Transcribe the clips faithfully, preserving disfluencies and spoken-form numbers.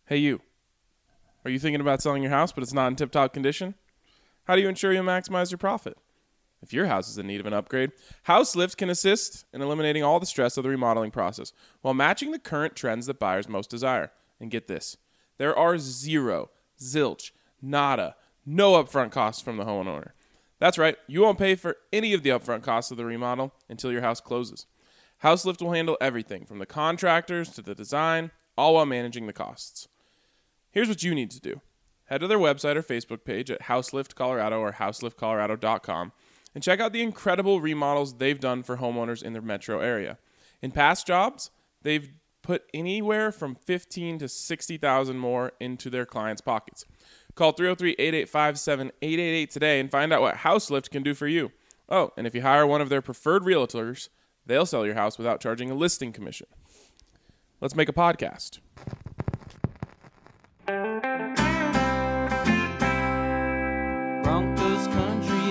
Hey, you. Are you thinking about selling your house, but it's not in tip-top condition? How do you ensure you'll maximize your profit? If your house is in need of an upgrade, HouseLift can assist in eliminating all the stress of the remodeling process while matching the current trends that buyers most desire. And get this, there are zero, zilch, nada, no upfront costs from the homeowner. That's right, you won't pay for any of the upfront costs of the remodel until your house closes. HouseLift will handle everything from the contractors to the design, all while managing the costs. Here's what you need to do. Head to their website or Facebook page at HouseLift Colorado or houselift colorado dot com and check out the incredible remodels they've done for homeowners in the metro area. In past jobs, they've put anywhere from fifteen thousand to sixty thousand more into their clients' pockets. Call three oh three, eight eight five, seven eight eight eight today and find out what HouseLift can do for you. Oh, and if you hire one of their preferred realtors, they'll sell your house without charging a listing commission. Let's make a podcast. Broncos country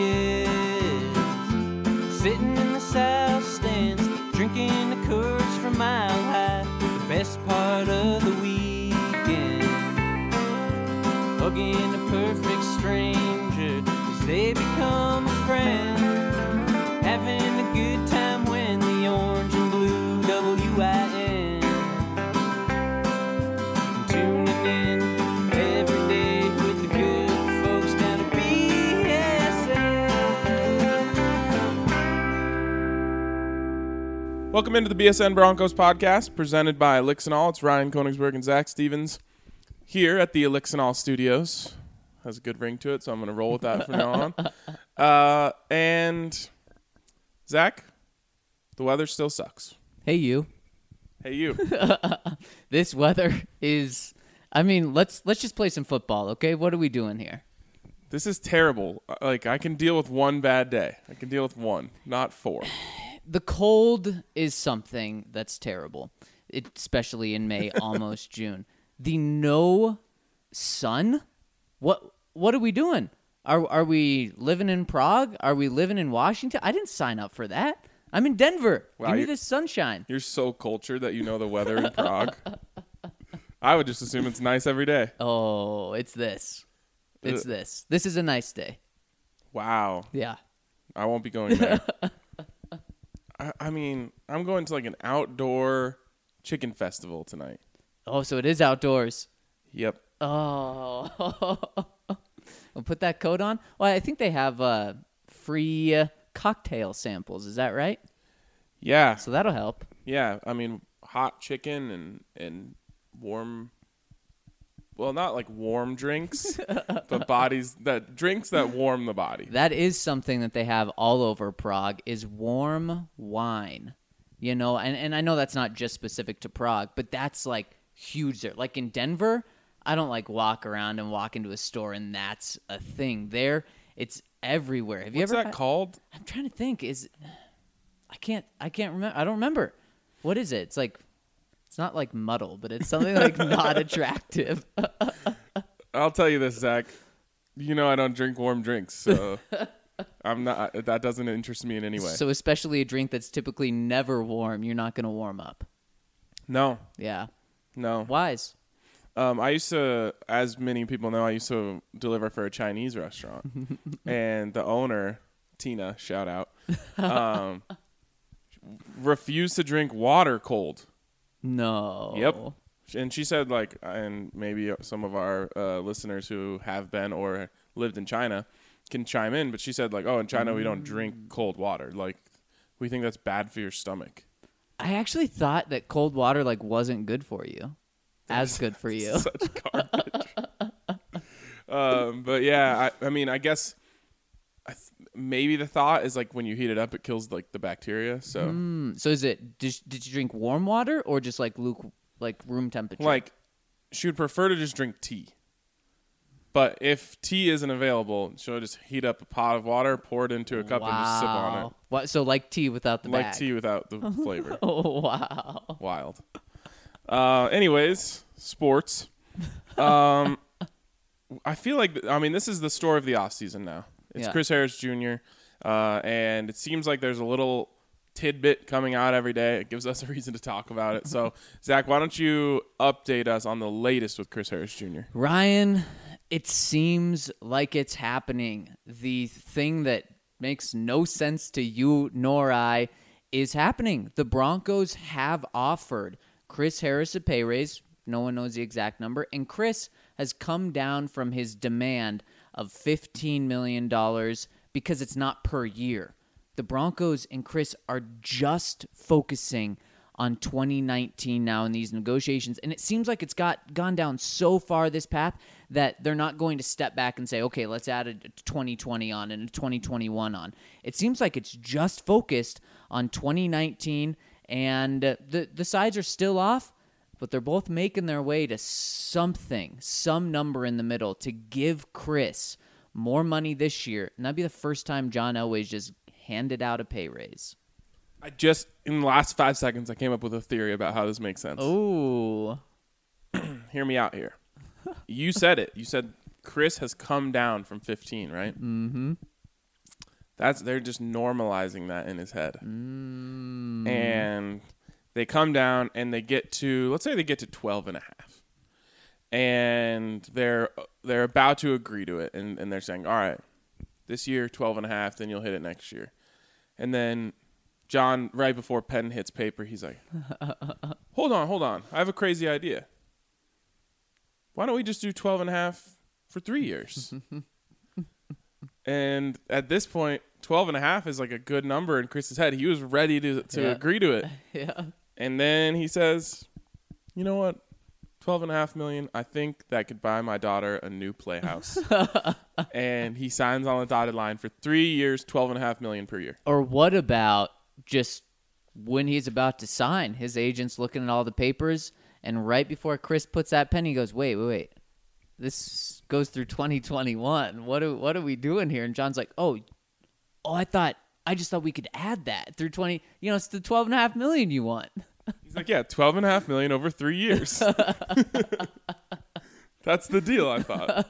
is sitting in the south stands, drinking the Coors from Mile High. The best part of the weekend, hugging a perfect stranger as they become a friend, having a good time when the orange and blue W I N tuning in every day with the good folks down at B S N. Welcome into the B S N Broncos podcast presented by Elixinol. It's Ryan Koenigsberg and Zach Stevens here at the Elixinol Studios. Has a good ring to it, so I'm going to roll with that from now on. Uh, and Zach, the weather still sucks. Hey, you. Hey, you. This weather is, I mean, let's let's just play some football, okay? What are we doing here? This is terrible. Like, I can deal with one bad day. I can deal with one, not four. The cold is something that's terrible, it, especially in May, almost June. The no sun? What what are we doing? Are are we living in Prague? Are we living in Washington? I didn't sign up for that. I'm in Denver. Wow, Give me you- this sunshine. You're so cultured that you know the weather in Prague. I would just assume it's nice every day. Oh, it's this. It's Uh, this. This is a nice day. Wow. Yeah. I won't be going there. I, I mean, I'm going to like an outdoor chicken festival tonight. Oh, so it is outdoors. Yep. Oh, we'll put that coat on. Well, I think they have uh, free uh, cocktail samples. Is that right? Yeah. So that'll help. Yeah. I mean, hot chicken and, and warm, well, not like warm drinks, but bodies that drinks that warm the body. That is something that they have all over Prague is warm wine. You know, and, and I know that's not just specific to Prague, but that's like huge there. Like in Denver, I don't like walk around and walk into a store and that's a thing. There, it's everywhere. Have you What's ever that had- called? I'm trying to think. Is I can't I can't remember. I don't remember. What is it? It's like it's not like muddle, but it's something like not attractive. I'll tell you this, Zach. You know I don't drink warm drinks, so I'm not. That doesn't interest me in any way. So especially a drink that's typically never warm, you're not going to warm up. No, Yeah. no. Wise. Um, I used to, as many people know, I used to deliver for a Chinese restaurant, and the owner, Tina, shout out, um, refused to drink water cold. No. Yep. And she said, like, and maybe some of our uh, listeners who have been or lived in China can chime in, but she said, like, oh, in China we don't drink cold water. Like, we think that's bad for your stomach. I actually thought that cold water like wasn't good for you. As good for you. Such garbage. um, but yeah, I, I mean, I guess I th- maybe the thought is like when you heat it up, it kills like the bacteria. So Mm, so is it did, did you drink warm water or just like luke like room temperature? like she would prefer to just drink tea. But if tea isn't available, she'll just heat up a pot of water, pour it into a cup, wow. and just sip on it. What, so like tea without the Like bag. tea without the flavor. Oh wow. Wild. Uh, anyways, sports. Um, I feel like, I mean, this is the story of the offseason now. It's Yeah. Chris Harris Junior Uh, and it seems like there's a little tidbit coming out every day. It gives us a reason to talk about it. So, Zach, why don't you update us on the latest with Chris Harris Junior? Ryan, it seems like it's happening. The thing that makes no sense to you nor I is happening. The Broncos have offered Chris Harris a pay raise. No one knows the exact number. And Chris has come down from his demand of fifteen million dollars because it's not per year. The Broncos and Chris are just focusing on twenty nineteen now in these negotiations. And it seems like it's got gone down so far this path that they're not going to step back and say, okay, let's add a twenty twenty on and a twenty twenty-one on. It seems like it's just focused on twenty nineteen, and uh, the, the sides are still off, but they're both making their way to something, some number in the middle to give Chris more money this year. And that'd be the first time John Elway's just handed out a pay raise. I just, in the last five seconds, I came up with a theory about how this makes sense. Oh. Hear me out here. You said it. You said Chris has come down from fifteen, right? Mm-hmm. That's they're just normalizing that in his head. Mm. And they come down and they get to, let's say they get to twelve and a half. And they're they're about to agree to it. And, and they're saying, all right, this year, twelve and a half, then you'll hit it next year. And then John, right before pen hits paper, he's like, hold on, hold on. I have a crazy idea. Why don't we just do twelve and a half for three years? And at this point, twelve and a half is like a good number in Chris's head. He was ready to, to Yeah. agree to it. Yeah. And then he says, you know what? twelve and a half million. I think that could buy my daughter a new playhouse. And he signs on the dotted line for three years, twelve and a half million per year. Or what about just when he's about to sign, his agent's looking at all the papers, and right before Chris puts that pen, he goes, wait, wait, wait. This goes through twenty twenty-one. What are, what are we doing here? And John's like, oh, oh, I thought, I just thought we could add that through twenty. You know, it's the twelve and a half million you want. He's like, yeah, twelve and a half million over three years. That's the deal, I thought.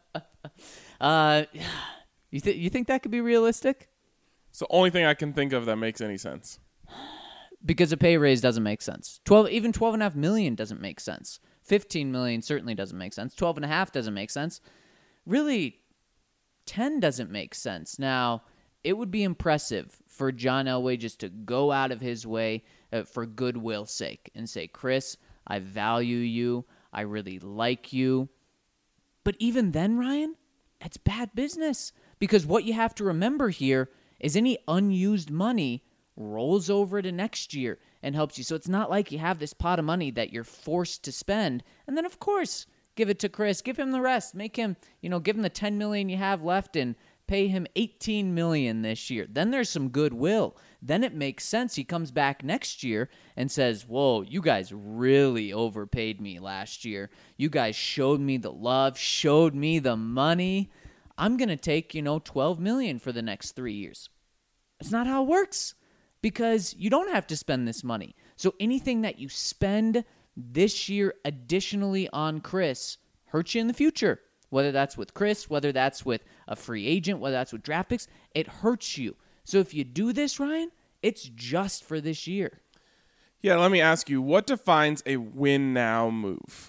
Uh, you, th- you think that could be realistic? It's the only thing I can think of that makes any sense. Because a pay raise doesn't make sense. twelve, even twelve and a half million doesn't make sense. fifteen million certainly doesn't make sense. twelve and a half doesn't make sense. Really, ten doesn't make sense. Now, it would be impressive for John Elway just to go out of his way uh, for goodwill's sake and say, Chris, I value you. I really like you. But even then, Ryan, that's bad business. Because what you have to remember here is any unused money rolls over to next year and helps you. So it's not like you have this pot of money that you're forced to spend. And then, of course, give it to Chris. Give him the rest. Make him, you know, give him the ten million dollars you have left and pay him eighteen million dollars this year. Then there's some goodwill. Then it makes sense. He comes back next year and says, whoa, you guys really overpaid me last year. You guys showed me the love, showed me the money. I'm going to take, you know, twelve million dollars for the next three years. It's not how it works. Because you don't have to spend this money. So anything that you spend this year additionally on Chris hurts you in the future. Whether that's with Chris, whether that's with a free agent, whether that's with draft picks, it hurts you. So if you do this, Ryan, it's just for this year. Yeah, let me ask you, what defines a win now move?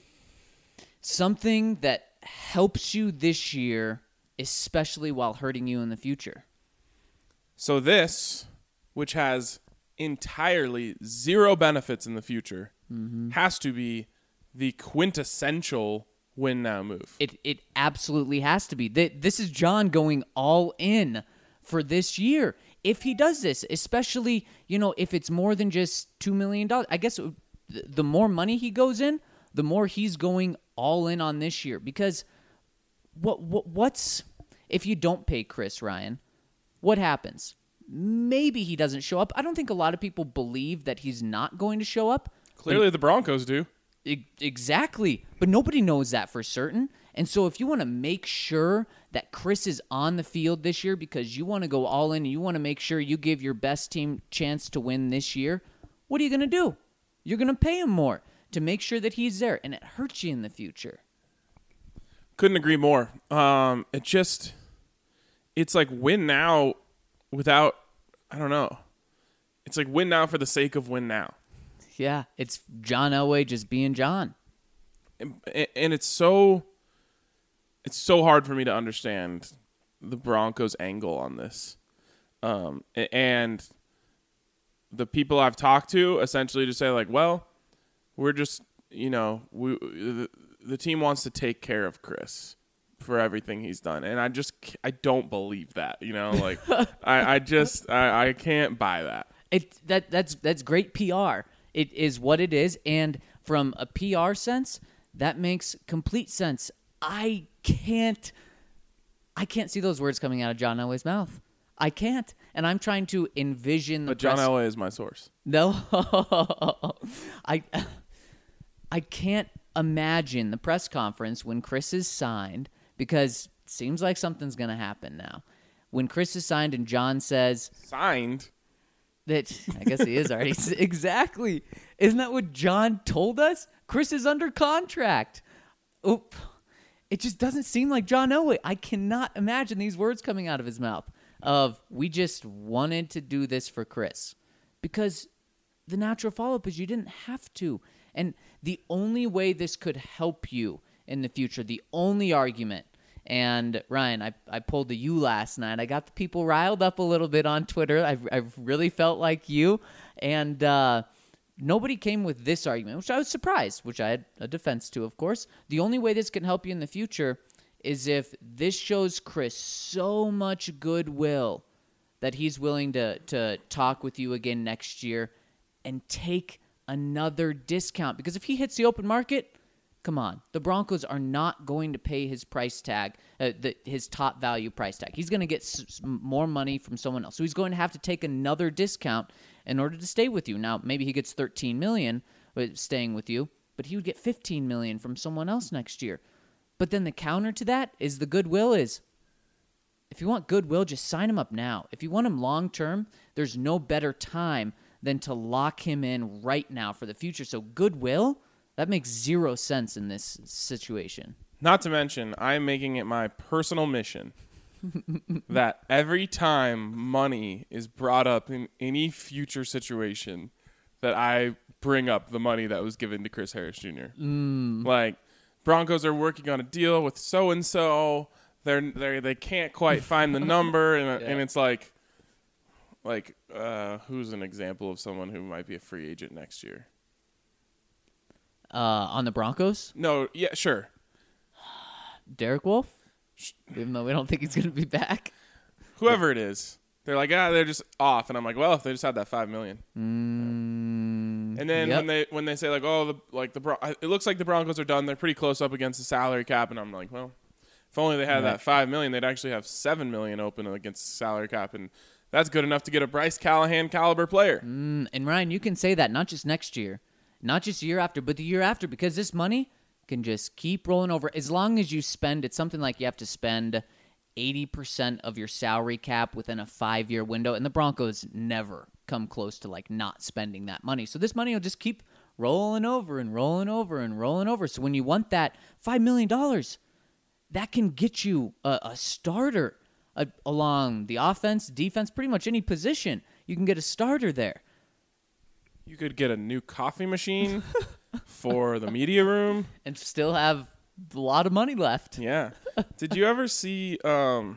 Something that helps you this year, especially while hurting you in the future. So this, which has entirely zero benefits in the future, mm-hmm. has to be the quintessential win now move. It it absolutely has to be. This is John going all in for this year. If he does this, especially, you know, if it's more than just two million dollars, I guess the more money he goes in, the more he's going all in on this year. Because what, what what's, if you don't pay Chris, Ryan, what happens? Maybe he doesn't show up. I don't think a lot of people believe that he's not going to show up. Clearly the Broncos do. E- exactly. But nobody knows that for certain. And so if you want to make sure that Chris is on the field this year because you want to go all in and you want to make sure you give your best team chance to win this year, what are you going to do? You're going to pay him more to make sure that he's there, and it hurts you in the future. Couldn't agree more. Um, it just, it's like win now without, I don't know. It's like win now for the sake of win now. Yeah, it's John Elway just being John. And, and it's so it's so hard for me to understand the Broncos' angle on this. Um, and the people I've talked to essentially just say like, well, we're just, you know, we the, the team wants to take care of Chris for everything he's done. And I just, I don't believe that, you know, like I, I just, I, I can't buy that. It that that's that's great P R. It is what it is, and from a P R sense, that makes complete sense. I can't, I can't see those words coming out of John Elway's mouth. I can't, and I'm trying to envision the. But John press- Elway is my source. No, I, I can't imagine the press conference when Chris is signed, because it seems like something's going to happen now. When Chris is signed and John says Signed. that, I guess he is already exactly. Isn't that what John told us? Chris is under contract. Oop. It just doesn't seem like John Elway. I cannot imagine these words coming out of his mouth of, we just wanted to do this for Chris. Because the natural follow-up is you didn't have to. And the only way this could help you in the future, the only argument, and Ryan, I, I pulled the you last night. I got the people riled up a little bit on Twitter. I've, I've really felt like you. And uh, nobody came with this argument, which I was surprised, which I had a defense to, of course. The only way this can help you in the future is if this shows Chris so much goodwill that he's willing to to talk with you again next year and take another discount. Because if he hits the open market, come on, the Broncos are not going to pay his price tag, uh, the, his top value price tag. He's going to get s- more money from someone else. So he's going to have to take another discount in order to stay with you. Now, maybe he gets thirteen million dollars staying with you, but he would get fifteen million dollars from someone else next year. But then the counter to that is the goodwill is, if you want goodwill, just sign him up now. If you want him long term, there's no better time than to lock him in right now for the future. So goodwill, that makes zero sense in this situation. Not to mention, I'm making it my personal mission that every time money is brought up in any future situation, that I bring up the money that was given to Chris Harris Junior Mm. Like, Broncos are working on a deal with so and so. They're they they can't quite find the number, and Yeah. and it's like, like uh, who's an example of someone who might be a free agent next year? Uh, on the Broncos, No, yeah, sure. Derek Wolfe, even though we don't think he's going to be back. Whoever it is, they're like, ah, they're just off, and I'm like, well, if they just had that five million. Mm, And then yep. when they when they say like, oh, the like the Bron- it looks like the Broncos are done. They're pretty close up against the salary cap, and I'm like, well, if only they had Right. that five million, they'd actually have seven million open against the salary cap, and that's good enough to get a Bryce Callahan caliber player. Mm, and Ryan, you can say that not just next year, not just the year after, but the year after, because this money can just keep rolling over. As long as you spend, it's something like you have to spend eighty percent of your salary cap within a five-year window, and the Broncos never come close to like not spending that money. So this money will just keep rolling over and rolling over and rolling over. So when you want that five million dollars, that can get you a, a starter uh, along the offense, defense, pretty much any position. You can get a starter there. You could get a new coffee machine for the media room. And still have a lot of money left. Yeah. Did you ever see um,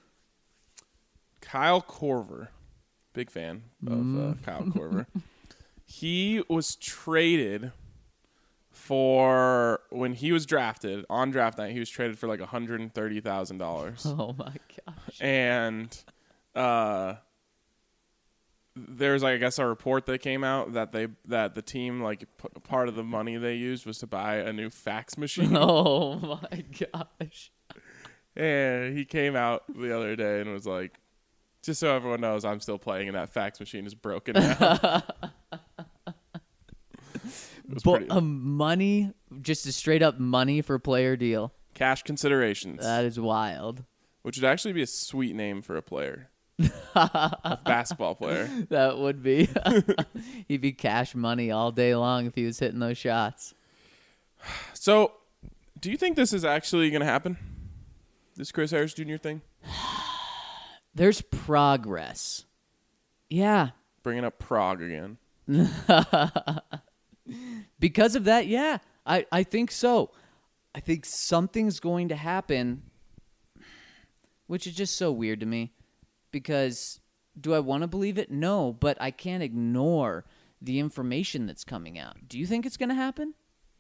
Kyle Korver? Big fan of uh, Kyle Korver. He was traded for, when he was drafted, on draft night, he was traded for like one hundred thirty thousand dollars. Oh, my gosh. And uh, there's, like, I guess, a report that came out that they that the team, like, p- part of the money they used was to buy a new fax machine. Oh, my gosh. And he came out the other day and was like, just so everyone knows, I'm still playing and that fax machine is broken now. It was But pretty- um, money, just a straight up money for player deal. Cash considerations, That is wild. which would actually be a sweet name for a player. A basketball player. That would be. He'd be cash money all day long if he was hitting those shots. So, do you think this is actually going to happen? This Chris Harris Junior thing? There's progress. Yeah, Bringing up Prague again. Because of that, yeah, I, I think so. I think something's going to happen, which is just so weird to me. Because do I want to believe it? No, but I can't ignore the information that's coming out. Do you think it's going to happen?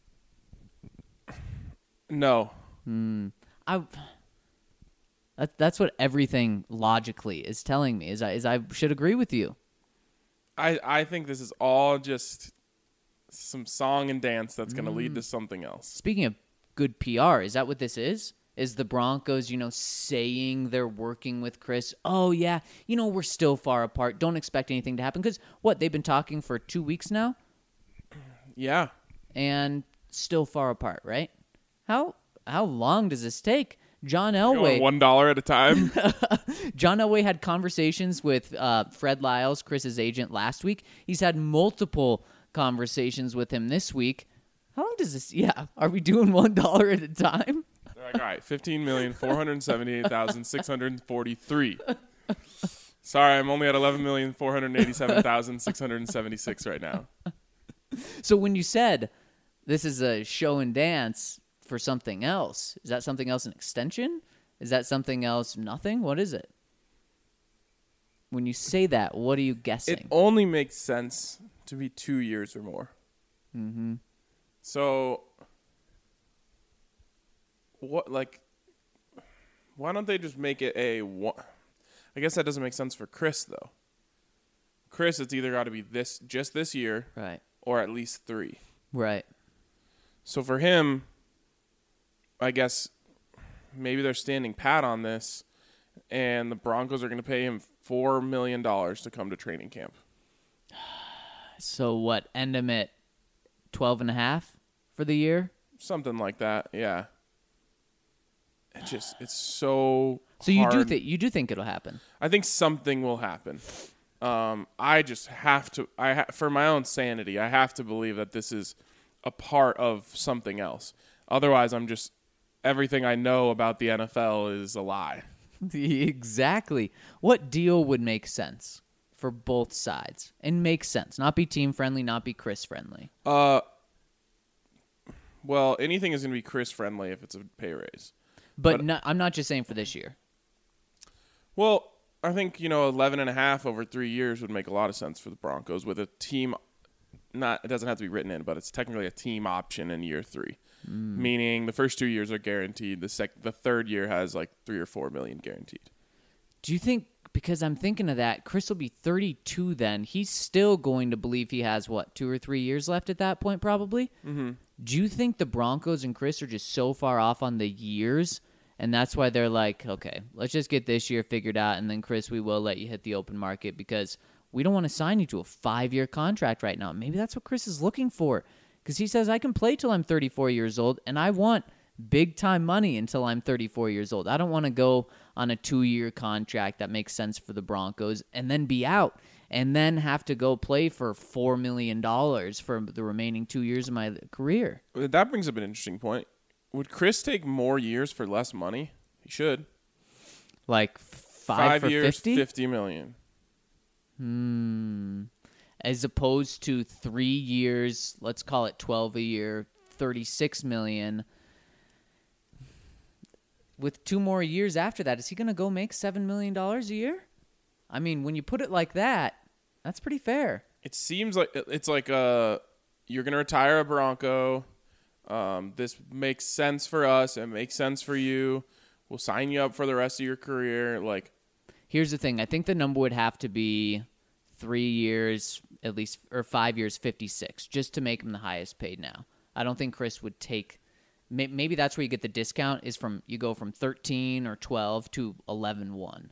No. Hmm. I. That, that's what everything logically is telling me. Is I is I should agree with you. I, I think this is all just some song and dance that's going to lead to something else. Speaking of good P R, is that what this is? Is the Broncos, you know, saying they're working with Chris? Oh, yeah, you know, we're still far apart. Don't expect anything to happen. Because, what, they've been talking for two weeks now? Yeah. And still far apart, right? How how long does this take? John Going Elway. one dollar at a time. John Elway had conversations with uh, Fred Lyles, Chris's agent, last week. He's had multiple conversations with him this week. How long does this? Yeah, are we doing one dollar at a time? They're like, all right, fifteen million four hundred seventy-eight thousand six hundred forty-three. Sorry, I'm only at eleven million four hundred eighty-seven thousand six hundred seventy-six right now. So when you said this is a show and dance for something else, is that something else an extension? Is that something else nothing? What is it? When you say that, what are you guessing? It only makes sense to be two years or more. Mm-hmm. So, what, like, why don't they just make it a one? I guess that doesn't make sense for Chris, though. Chris, it's either got to be this, just this year, Right. or at least three. Right. So for him, I guess maybe they're standing pat on this, and the Broncos are going to pay him four million dollars to come to training camp. So what? End him at twelve and a half for the year? Something like that, yeah. It just, it's so So you do hard. think you do think it'll happen? I think something will happen. Um, I just have to, I ha- for my own sanity, I have to believe that this is a part of something else. Otherwise, I'm just, everything I know about the N F L is a lie. Exactly. What deal would make sense for both sides and make sense? Not be team friendly, not be Chris friendly. Uh, well, anything is going to be Chris friendly if it's a pay raise. But, But- no, I'm not just saying for this year. Well, I think, you know, eleven and a half over three years would make a lot of sense for the Broncos with a team. Not, it doesn't have to be written in, but it's technically a team option in year three, mm. meaning the first two years are guaranteed. The sec, the third year has like three or four million guaranteed. Do you think, because I'm thinking of that, Chris will be thirty-two then. He's still going to believe he has, what, two or three years left at that point probably? Mm-hmm. Do you think the Broncos and Chris are just so far off on the years, and that's why they're like, okay, let's just get this year figured out, and then, Chris, we will let you hit the open market because we don't want to sign you to a five-year contract right now. Maybe that's what Chris is looking for because he says, I can play till I'm thirty-four years old, and I want big-time money until I'm thirty-four years old. I don't want to go on a two-year contract that makes sense for the Broncos and then be out and then have to go play for four million dollars for the remaining two years of my career. That brings up an interesting point. Would Chris take more years for less money? He should. Like five, Five for years, fifty? fifty million. Hmm. As opposed to three years, let's call it twelve a year, thirty-six million. With two more years after that, is he going to go make seven million dollars a year? I mean, when you put it like that, that's pretty fair. It seems like it's like uh you're gonna retire a Bronco. Um, this makes sense for us. It makes sense for you. We'll sign you up for the rest of your career. Like, Here's the thing. I think the number would have to be three years, at least, or five years, fifty-six, just to make him the highest paid now. I don't think Chris would take. Maybe that's where you get the discount is from you go from thirteen or twelve to eleven one.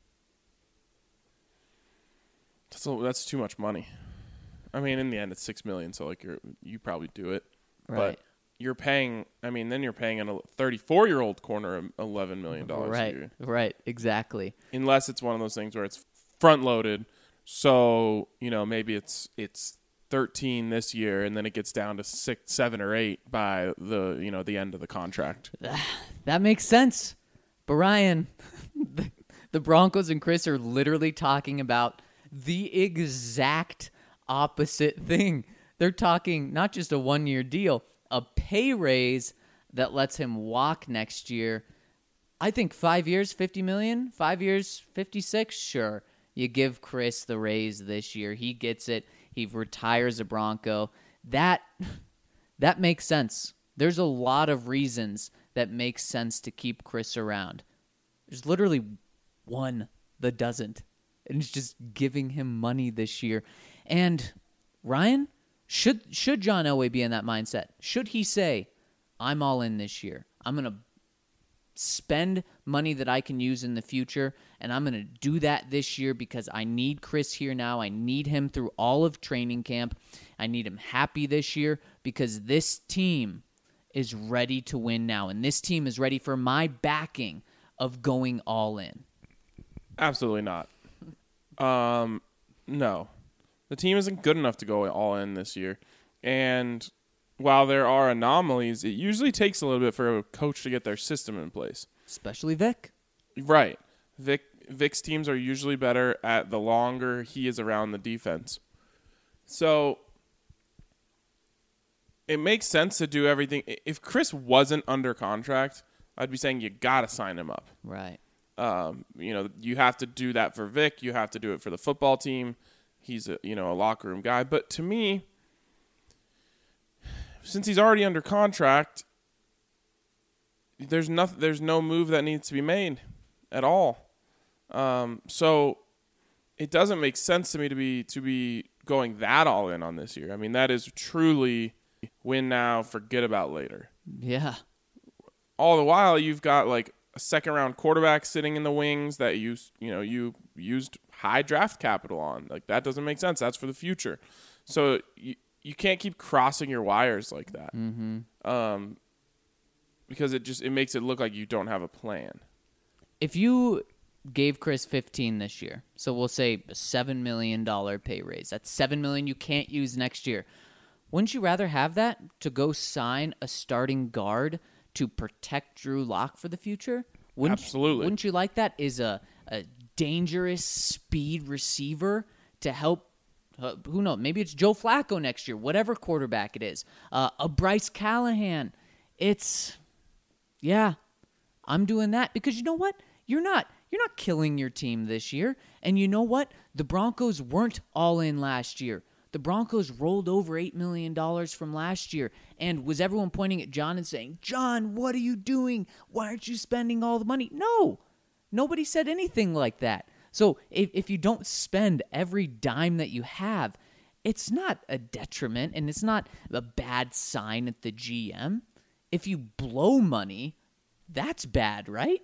that's a, that's too much money. I mean, in the end, it's six million. So like, you're you probably do it, Right. but you're paying. I mean, then you're paying a thirty-four year old corner eleven million dollars Right. a year, Right. Exactly. unless it's one of those things where it's front loaded. So you know, maybe it's it's thirteen this year, and then it gets down to six, seven, or eight by the you know the end of the contract. That makes sense. But Ryan, the, the Broncos and Chris are literally talking about the exact opposite thing. They're talking not just a one-year deal, a pay raise that lets him walk next year. I think five years, fifty million dollars, five years, fifty-six, sure. You give Chris the raise this year. He gets it. He retires a Bronco. That that makes sense. There's a lot of reasons that make sense to keep Chris around. There's literally one that doesn't. And it's just giving him money this year. And Ryan, should should John Elway be in that mindset? Should he say, I'm all in this year. I'm going to spend money that I can use in the future, and I'm going to do that this year because I need Chris here now. I need him through all of training camp. I need him happy this year because this team is ready to win now, and this team is ready for my backing of going all in. Absolutely not. Um, no. The team isn't good enough to go all in this year, and while there are anomalies, it usually takes a little bit for a coach to get their system in place. Especially Vic. Right. Vic Vic's teams are usually better at the longer he is around the defense. So it makes sense to do everything. If Chris wasn't under contract, I'd be saying you got to sign him up. Right. Um, you know, you have to do that for Vic. You have to do it for the football team. He's a, you know, a locker room guy. But to me, since he's already under contract, there's nothing. There's no move that needs to be made at all. Um, so it doesn't make sense to me to be to be going that all in on this year. I mean, that is truly win now, forget about later. Yeah. All the while, you've got like a second round quarterback sitting in the wings that you you know you used high draft capital on. Like that doesn't make sense. That's for the future. So you. You can't keep crossing your wires like that, Mm-hmm. um, because it just it makes it look like you don't have a plan. If you gave Chris fifteen this year, so we'll say a seven million dollars pay raise, that's seven million dollars you can't use next year. Wouldn't you rather have that to go sign a starting guard to protect Drew Lock for the future? Wouldn't Absolutely. You, wouldn't you like that? Is a, a dangerous speed receiver to help. Uh, who knows? Maybe it's Joe Flacco next year, whatever quarterback it is. Uh, a Bryce Callahan. It's, yeah, I'm doing that because you know what? You're not you're not killing your team this year. And you know what? The Broncos weren't all in last year. The Broncos rolled over eight million dollars from last year. And was everyone pointing at John and saying, John, what are you doing? Why aren't you spending all the money? No, nobody said anything like that. So if, if you don't spend every dime that you have, it's not a detriment and it's not a bad sign at the G M. If you blow money, that's bad, right?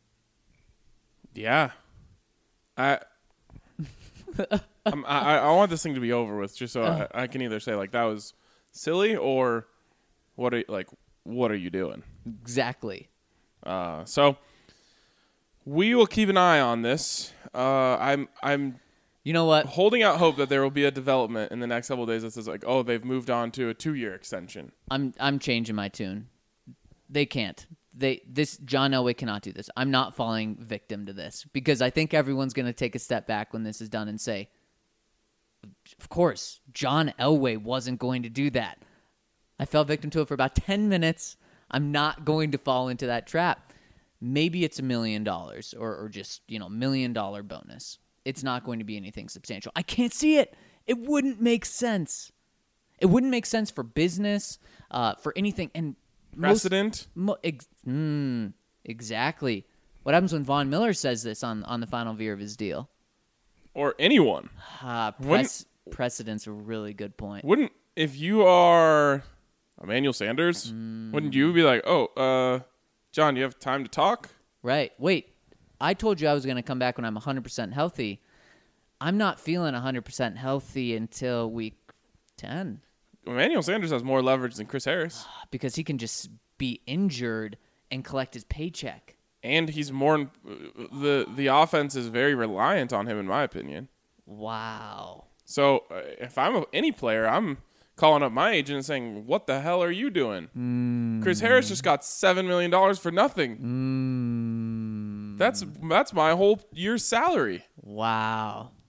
Yeah, I, I'm, I, I want this thing to be over with, just so Uh. I, I can either say like that was silly or what are like what are you doing? Exactly. Uh, so we will keep an eye on this. Uh, I'm I'm You know what? holding out hope that there will be a development in the next couple of days that says like, oh, they've moved on to a two-year extension. I'm I'm changing my tune. They can't. They this John Elway cannot do this. I'm not falling victim to this because I think everyone's going to take a step back when this is done and say, of course, John Elway wasn't going to do that. I fell victim to it for about ten minutes. I'm not going to fall into that trap. Maybe it's a million dollars or, or just, you know, million dollar bonus. It's not going to be anything substantial. I can't see it. It wouldn't make sense. It wouldn't make sense for business, uh, for anything. And Precedent? Most, mo, ex, mm, exactly. What happens when Von Miller says this on, on the final year of his deal? Or anyone. Uh, Wouldn't- press, precedent's a really good point. Wouldn't, if you are Emmanuel Sanders, Mm. wouldn't you be like, oh, uh, John, you have time to talk? Right. Wait, I told you I was going to come back when I'm one hundred percent healthy. I'm not feeling one hundred percent healthy until week ten Emmanuel Sanders has more leverage than Chris Harris. because he can just be injured and collect his paycheck. And he's more, the, the offense is very reliant on him, in my opinion. Wow. So uh, if I'm a, any player, I'm calling up my agent and saying, what the hell are you doing? Mm. Chris Harris just got seven million dollars for nothing. Mm. That's that's my whole year's salary. Wow.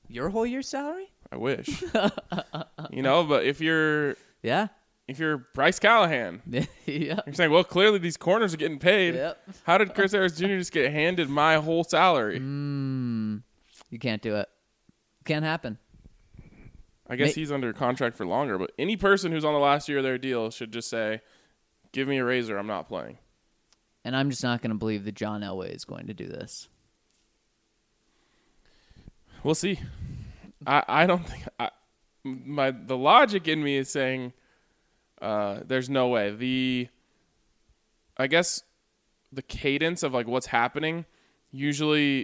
Your whole year's salary? I wish. You know, but if you're Yeah. if you're Bryce Callahan, yeah. you're saying, well, clearly these corners are getting paid. Yep. How did Chris Harris Junior just get handed my whole salary? Mm, you can't do it. Can't happen. I guess Ma- he's under contract for longer, but any person who's on the last year of their deal should just say, give me a raise or I'm not playing. And I'm just not going to believe that John Elway is going to do this. We'll see. I, I don't think I, my the logic in me is saying uh, there's no way. The I guess the cadence of like what's happening, usually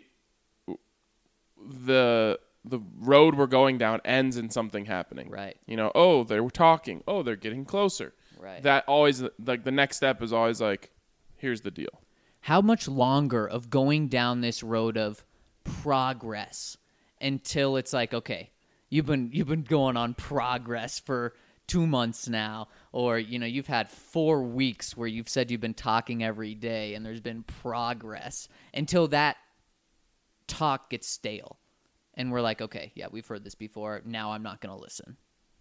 the the road we're going down ends in something happening. Right. You know, oh, they were talking. Oh, they're getting closer. Right. That always like the next step is always like, here's the deal. How much longer of going down this road of progress until it's like, okay, you've been you've been going on progress for two months now, or you know, you've had four weeks where you've said you've been talking every day and there's been progress until that talk gets stale. And we're like, okay, yeah, we've heard this before. Now I'm not going to listen.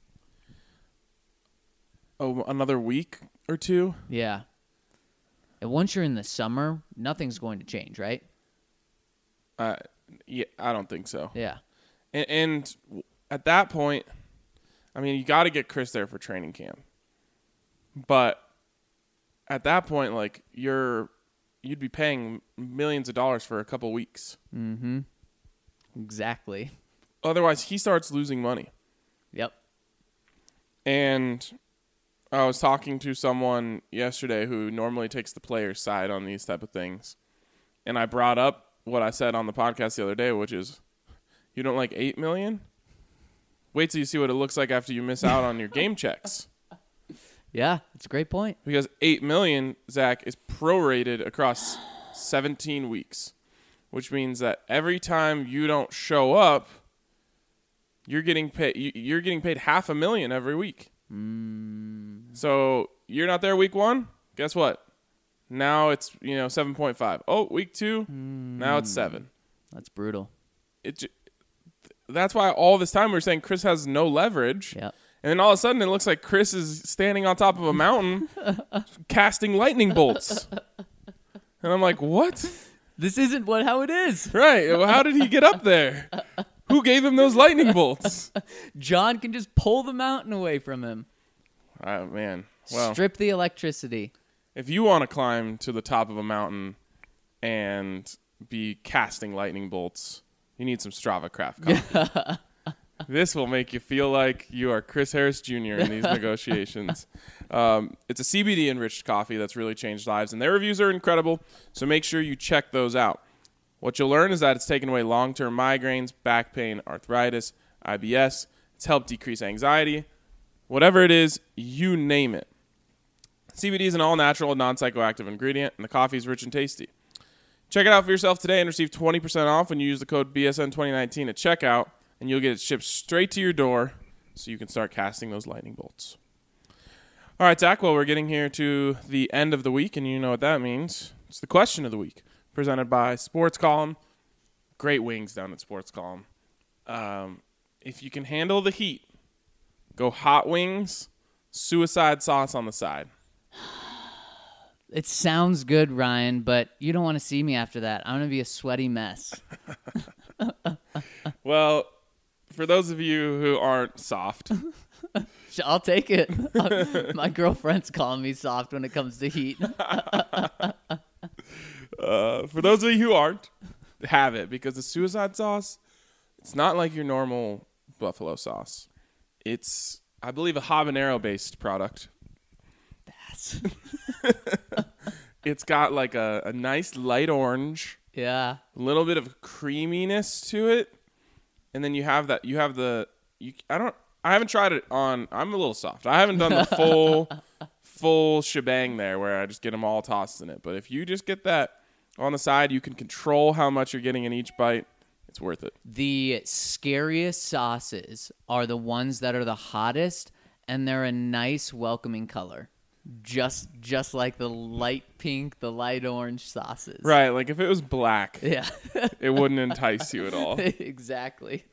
Oh, another week or two? Yeah. And once you're in the summer, nothing's going to change, right? Uh, yeah, I don't think so. Yeah. And, and at that point, I mean, you got to get Chris there for training camp. But at that point, like you're, you'd be paying millions of dollars for a couple weeks. Mm-hmm. Exactly. Otherwise, he starts losing money. Yep. And I was talking to someone yesterday who normally takes the player's side on these type of things. And I brought up what I said on the podcast the other day, which is, you don't like eight million dollars? Wait till you see what it looks like after you miss out on your game checks. Yeah, it's a great point. Because eight million dollars, Zach, is prorated across seventeen weeks, which means that every time you don't show up, you're getting paid. You're getting paid half a million every week. Mm. So you're not there week one. Guess what? Now it's you know seven point five. Oh, week two. Mm. Now it's seven. That's brutal. It. That's why all this time we we're saying Chris has no leverage. Yep. And then all of a sudden it looks like Chris is standing on top of a mountain casting lightning bolts. And I'm like, what? This isn't what how it is. Right. Well, how did he get up there? Who gave him those lightning bolts? John can just pull the mountain away from him. Oh, man. Well, strip the electricity. If you want to climb to the top of a mountain and be casting lightning bolts, you need some Strava Craft coffee. This will make you feel like you are Chris Harris Junior in these negotiations. Um, it's a C B D-enriched coffee that's really changed lives, and their reviews are incredible, so make sure you check those out. What you'll learn is that it's taken away long-term migraines, back pain, arthritis, I B S. It's helped decrease anxiety. Whatever it is, you name it. C B D is an all-natural, non-psychoactive ingredient, and the coffee is rich and tasty. Check it out for yourself today and receive twenty percent off when you use the code B S N twenty nineteen at checkout, and you'll get it shipped straight to your door so you can start casting those lightning bolts. All right, Zach, well, we're getting here to the end of the week, and you know what that means. It's the question of the week, presented by Sports Column. Great wings down at Sports Column. Um, if you can handle the heat, go hot wings, suicide sauce on the side. It sounds good, Ryan, but you don't want to see me after that. I'm going to be a sweaty mess. Well, for those of you who aren't soft, I'll take it. My girlfriend's calling me soft when it comes to heat. uh, for those of you who aren't, have it, because the suicide sauce, it's not like your normal buffalo sauce. It's, I believe, a habanero-based product. That's It's got like a, a nice light orange, yeah, a little bit of creaminess to it, and then you have that. You have the. You, I don't. I haven't tried it on. I'm a little soft. I haven't done the full, full shebang there where I just get them all tossed in it. But if you just get that on the side, you can control how much you're getting in each bite. It's worth it. The scariest sauces are the ones that are the hottest, and they're a nice, welcoming color. just just like the light pink, the light orange sauces. Right, like if it was black, Yeah. it wouldn't entice you at all. Exactly.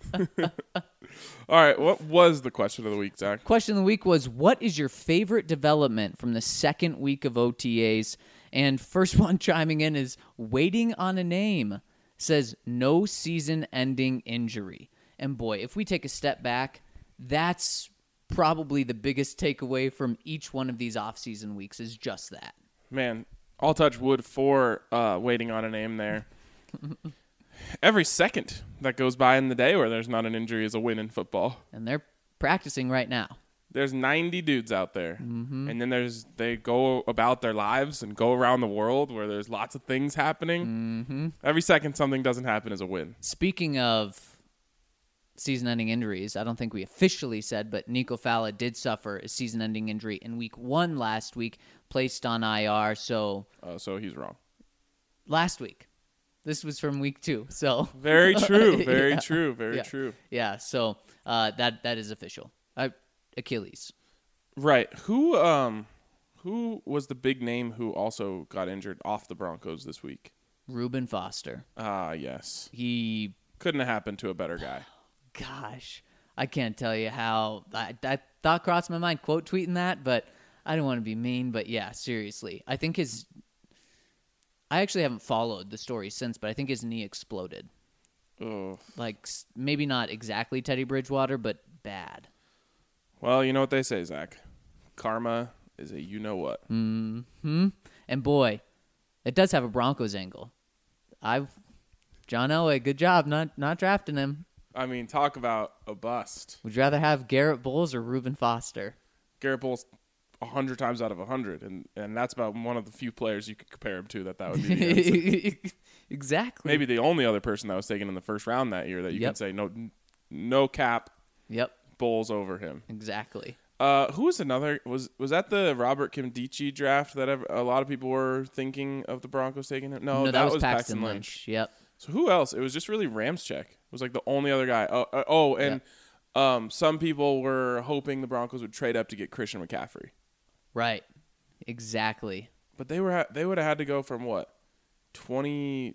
All right, what was the question of the week, Zach? Question of the week was, what is your favorite development from the second week of O T As? And first one chiming in is waiting on a name. Says no season-ending injury. And boy, if we take a step back, that's probably the biggest takeaway from each one of these off-season weeks is just that. Man, I'll touch wood for uh, waiting on a name there. Every second that goes by in the day where there's not an injury is a win in football. And they're practicing right now. There's ninety dudes out there, Mm-hmm. and then there's they go about their lives and go around the world where there's lots of things happening. Mm-hmm. Every second something doesn't happen is a win. Speaking of season-ending injuries, I don't think we officially said, but Nico Falla did suffer a season-ending injury in week one last week, placed on I R. So Uh, so he's wrong. last week. This was from week two. So Very true. Very Yeah. true. Very Yeah. true. Yeah, so uh, that that is official. Uh, Achilles. Right. Who um who was the big name who also got injured off the Broncos this week? Reuben Foster. Ah, yes. He, Couldn't have happened to a better guy. gosh, I can't tell you how that, that thought crossed my mind, quote tweeting that, but I don't want to be mean, but yeah, seriously. I think his, I actually haven't followed the story since, but I think his knee exploded. Oh. Like, s- maybe not exactly Teddy Bridgewater, but bad. Well, you know what they say, Zach. Karma is a you-know-what. Hmm. And boy, it does have a Broncos angle. I've, John Elway, good job not not drafting him. I mean, talk about a bust. Would you rather have Garrett Bowles or Reuben Foster? Garrett Bowles a hundred times out of a hundred, and and that's about one of the few players you could compare him to that that would be the answer. Exactly. Maybe the only other person that was taken in the first round that year that you Yep. can say no, no cap Yep. Bowles over him. Exactly. Uh, who was another? Was was that the Robert Kimdichie draft that ever, a lot of people were thinking of the Broncos taking him? No, no, that, was, Paxton, Lynch. Yep. So who else? It was just really Ramczyk. It was like the only other guy. Oh, uh, oh and um, some people were hoping the Broncos would trade up to get Christian McCaffrey, Right. Exactly. but they were ha- they would have had to go from what twenty.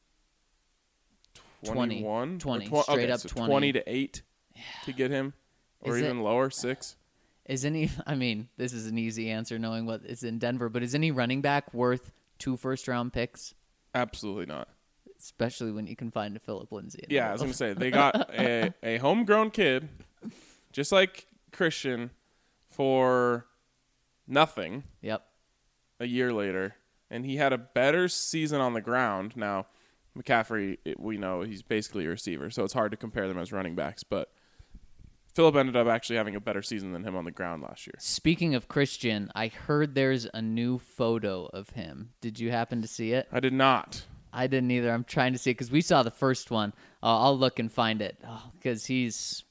twenty. twenty-one? twenty. Or tw- Straight okay, up so twenty. twenty to eight to get him, or Is it- even lower, six. Is any? I mean, this is an easy answer knowing what is in Denver, but is any running back worth two first round picks? Absolutely not. Especially when you can find a Philip Lindsay. in the Yeah, I was world. gonna say they got a, a homegrown kid, just like Christian, for nothing Yep. a year later, and he had a better season on the ground. Now, McCaffrey, it, we know he's basically a receiver, so it's hard to compare them as running backs. But Philip ended up actually having a better season than him on the ground last year. Speaking of Christian, I heard there's a new photo of him. Did you happen to see it? I did not. I didn't either. I'm trying to see it because we saw the first one. Uh, I'll look and find it because he's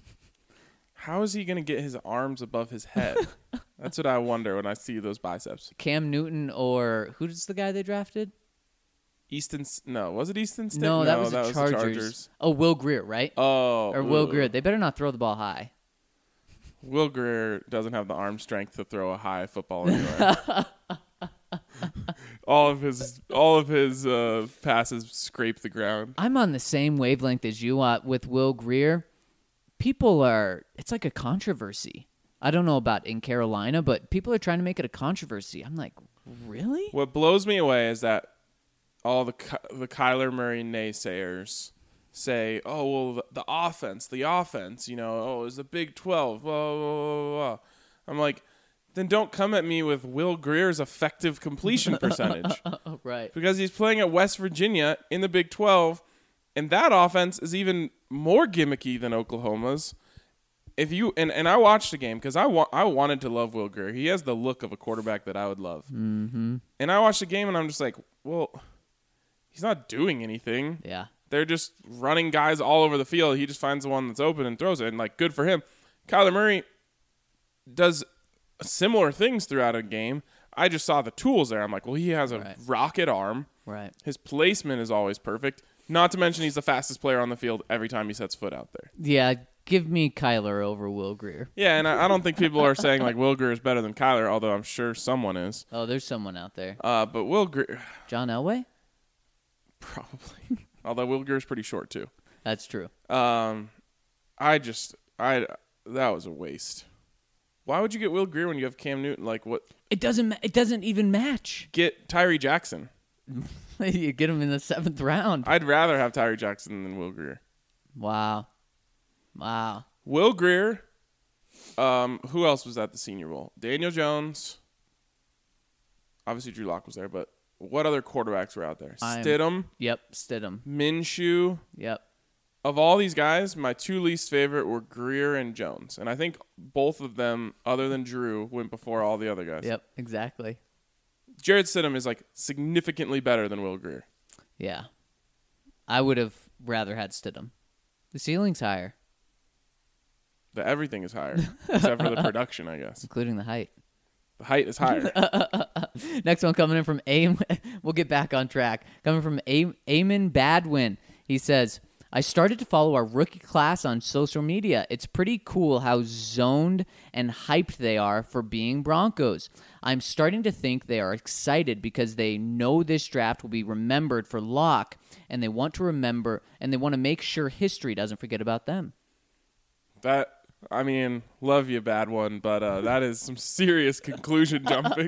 How is he going to get his arms above his head? That's what I wonder when I see those biceps. Cam Newton or who's the guy they drafted? Easton, S- no, was it Easton Stick? No, that was that the was Chargers. the Chargers. Oh, Will Greer, right? Oh, or Will ooh. Greer. They better not throw the ball high. Will Greer doesn't have the arm strength to throw a high football anywhere. all of his all of his uh, passes scrape the ground. I'm on the same wavelength as you uh, with Will Greer. People are, it's like a controversy. I don't know about in Carolina, but people are trying to make it a controversy. I'm like, really? What blows me away is that all the Ky- the Kyler Murray naysayers say, "Oh well, the, the offense, the offense, you know, oh, it's the Big twelve." Blah, blah, blah, blah. I'm like, then don't come at me with Will Greer's effective completion percentage. Oh, right. Because he's playing at West Virginia in the Big twelve, and that offense is even more gimmicky than Oklahoma's. If you and, and I watched the game because I wa- I wanted to love Will Greer. He has the look of a quarterback that I would love. Mm-hmm. And I watched the game and I'm just like, well, he's not doing anything. Yeah. They're just running guys all over the field. He just finds the one that's open and throws it. And like, good for him. Kyler Murray does similar things throughout a game. I just saw the tools there. I'm like, well, he has a Right. rocket arm. Right. His placement is always perfect. Not to mention he's the fastest player on the field every time he sets foot out there. Yeah, give me Kyler over Will Grier. Yeah, and I, I don't think people are saying like Will Grier is better than Kyler, although I'm sure someone is. Oh, there's someone out there. Uh, but Will Grier, John Elway? probably. Although Will Grier's pretty short too. That's true. Um, I just I that was a waste. Why would you get Will Grier when you have Cam Newton? Like what? It doesn't. ma- It doesn't even match. Get Tyree Jackson. You get him in the seventh round. I'd rather have Tyree Jackson than Will Grier. Wow. Wow. Will Grier. Um, who else was at the Senior Bowl? Daniel Jones. Obviously, Drew Lock was there, but what other quarterbacks were out there? I'm- Stidham, Yep. Stidham. Minshew. Yep. Of all these guys, my two least favorite were Grier and Jones, and I think both of them, other than Drew, went before all the other guys. Yep. Exactly. Jared Stidham is like significantly better than Will Grier. Yeah. I would have rather had Stidham. The ceiling's higher, The everything is higher, except for the production, I guess. including the height. The height is higher. Next one coming in from Am. We'll get back on track. Coming from Am- Eamon Badwin. He says, I started to follow our rookie class on social media. It's pretty cool how zoned and hyped they are for being Broncos. I'm starting to think they are excited because they know this draft will be remembered for Locke, and they want to remember, and they want to make sure history doesn't forget about them. That, I mean, love you, bad one, but uh, that is some serious conclusion jumping.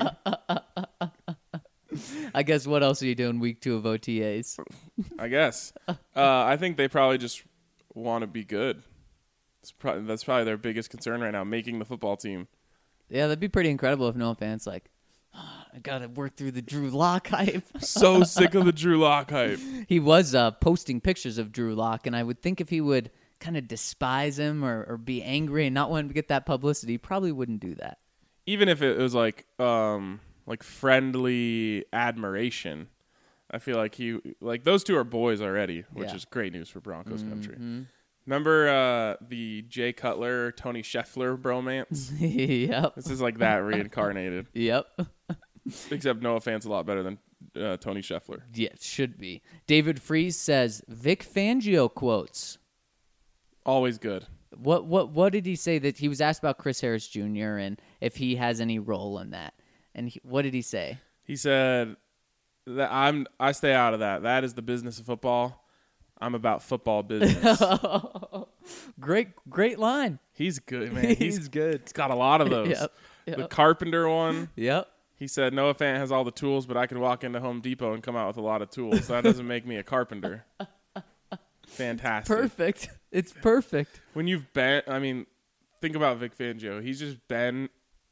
I guess what else are you doing week two of O T As? I guess. Uh, I think they probably just want to be good. It's pro- that's probably their biggest concern right now, making the football team. Yeah, that'd be pretty incredible if Noah Fant's like, oh, I got to work through the Drew Lock hype. So sick of the Drew Lock hype. He was uh, posting pictures of Drew Lock, and I would think if he would kind of despise him or, or be angry and not want him to get that publicity, he probably wouldn't do that. Even if it was like um, like friendly admiration, I feel like he like those two are boys already, which Yeah. is great news for Broncos Mm-hmm. country. Remember uh, the Jay Cutler, Tony Scheffler bromance? Yep. This is like that reincarnated, Yep. except Noah Fant's a lot better than uh, Tony Scheffler. Yeah, it should be. David Freeze says, Vic Fangio quotes. Always good. What what what did he say that he was asked about Chris Harris Junior and if he has any role in that? And he, what did he say? He said that I'm I stay out of that. That is the business of football. I'm about football business. Great great line. He's good, man. He's, He's good. he's got a lot of those. Yep, yep. The Carpenter one. Yep. He said Noah Fant has all the tools, but I can walk into Home Depot and come out with a lot of tools. That doesn't make me a carpenter. Fantastic. Perfect. It's perfect. When you've been, I mean, think about Vic Fangio. He's just been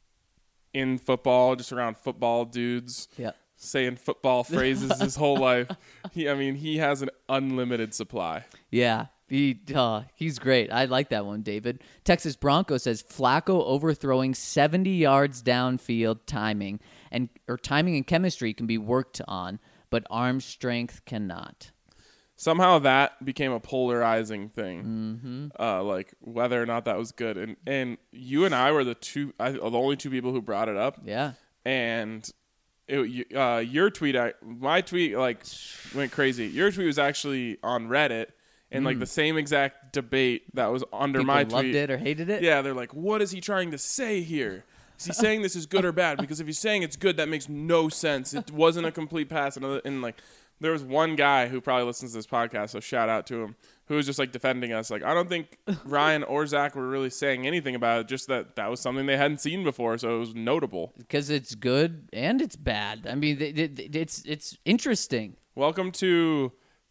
in football, just around football dudes, Yeah. saying football phrases his whole life. He, I mean, he has an unlimited supply. Yeah. He uh, he's great. I like that one, David. Texas Bronco says Flacco overthrowing seventy yards downfield timing and or timing and chemistry can be worked on, but arm strength cannot. Somehow that became a polarizing thing, Mm-hmm. uh, like whether or not that was good. And and you and I were the two, I, the only two people who brought it up. Yeah. And it, uh, your tweet, I, my tweet, like went crazy. Your tweet was actually on Reddit, and like the same exact debate that was under People my loved tweet. it or hated it. Yeah, they're like, what is he trying to say here? Is he saying this is good or bad? Because if he's saying it's good, that makes no sense. It wasn't a complete pass. And, and like, there was one guy who probably listens to this podcast, so shout out to him, who was just like defending us. Like, I don't think Ryan or Zach were really saying anything about it, just that that was something they hadn't seen before, so it was notable. Because it's good and it's bad. I mean, it, it, it's it's interesting. Welcome to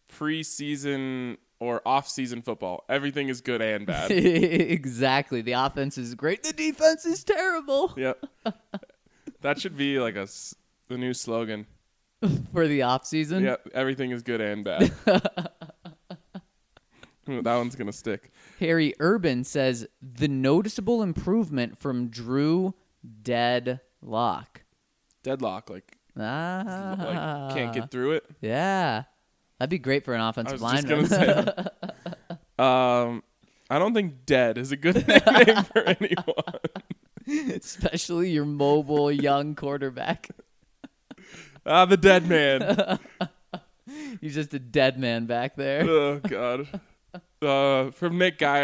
preseason or off-season football. Everything is good and bad. Exactly. The offense is great. The defense is terrible. Yep. That should be like a s- the new slogan. For the off season. Yep. Everything is good and bad. That one's gonna stick. Harry Urban says the noticeable improvement from Drew Dead Lock. Deadlock, like, Ah, like can't get through it. Yeah, that'd be great for an I offensive was just lineman. gonna say. um, I don't think dead is a good nickname for anyone. Especially your mobile young quarterback. Ah, the dead man. He's just a dead man back there. Oh God. Uh, from Nick Geyer,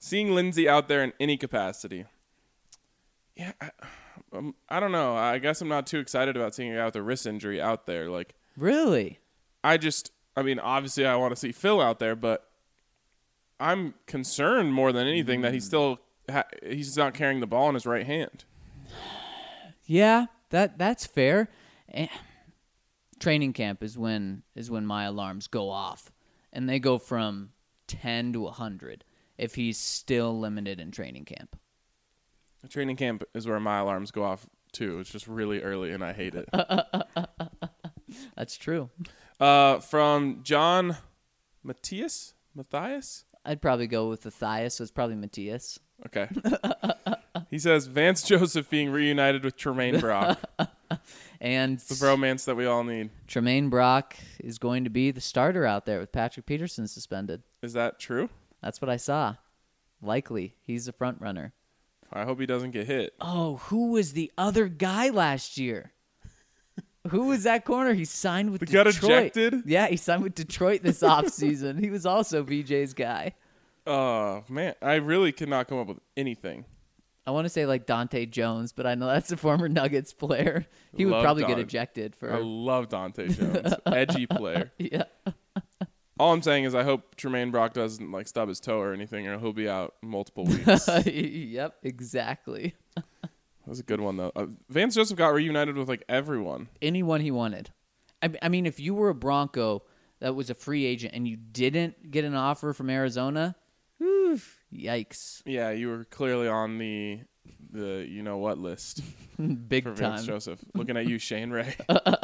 seeing Lindsey out there in any capacity. Yeah, I, um, I don't know. I guess I'm not too excited about seeing a guy with a wrist injury out there. Like, Really? I just, I mean, obviously I want to see Phil out there, but I'm concerned more than anything that he's still ha- he's not carrying the ball in his right hand. Yeah, that that's fair. Eh, training camp is when is when my alarms go off, and they go from ten to a hundred if he's still limited in training camp. Training camp is where my alarms go off too. It's just really early, and I hate it. That's true. Uh, from John Matthias, Matthias. I'd probably go with Matthias, so it's probably Matthias. Okay. He says Vance Joseph being reunited with Tremaine Brock. And The bromance that we all need. Tremaine Brock is going to be the starter out there with Patrick Peterson suspended. Is that true? That's what I saw. Likely. He's the front runner. I hope he doesn't get hit. Oh, who was the other guy last year? Who was that corner? He signed with The got Detroit. ejected? Yeah, he signed with Detroit this offseason. He was also V J's guy. Oh, man. I really cannot come up with anything. I want to say like Dante Jones, but I know that's a former Nuggets player. He would Love probably get Don- ejected for. I love Dante Jones. Edgy player. Yeah. All I'm saying is I hope Tremaine Brock doesn't like stub his toe or anything, or he'll be out multiple weeks. That Yep, exactly. was a good one, though. Uh, Vance Joseph got reunited with like everyone. Anyone he wanted. I, I mean, if you were a Bronco that was a free agent and you didn't get an offer from Arizona, whew, yikes. Yeah, you were clearly on the the you know what list Big for time. Vance Joseph. Looking at you, Shane Ray.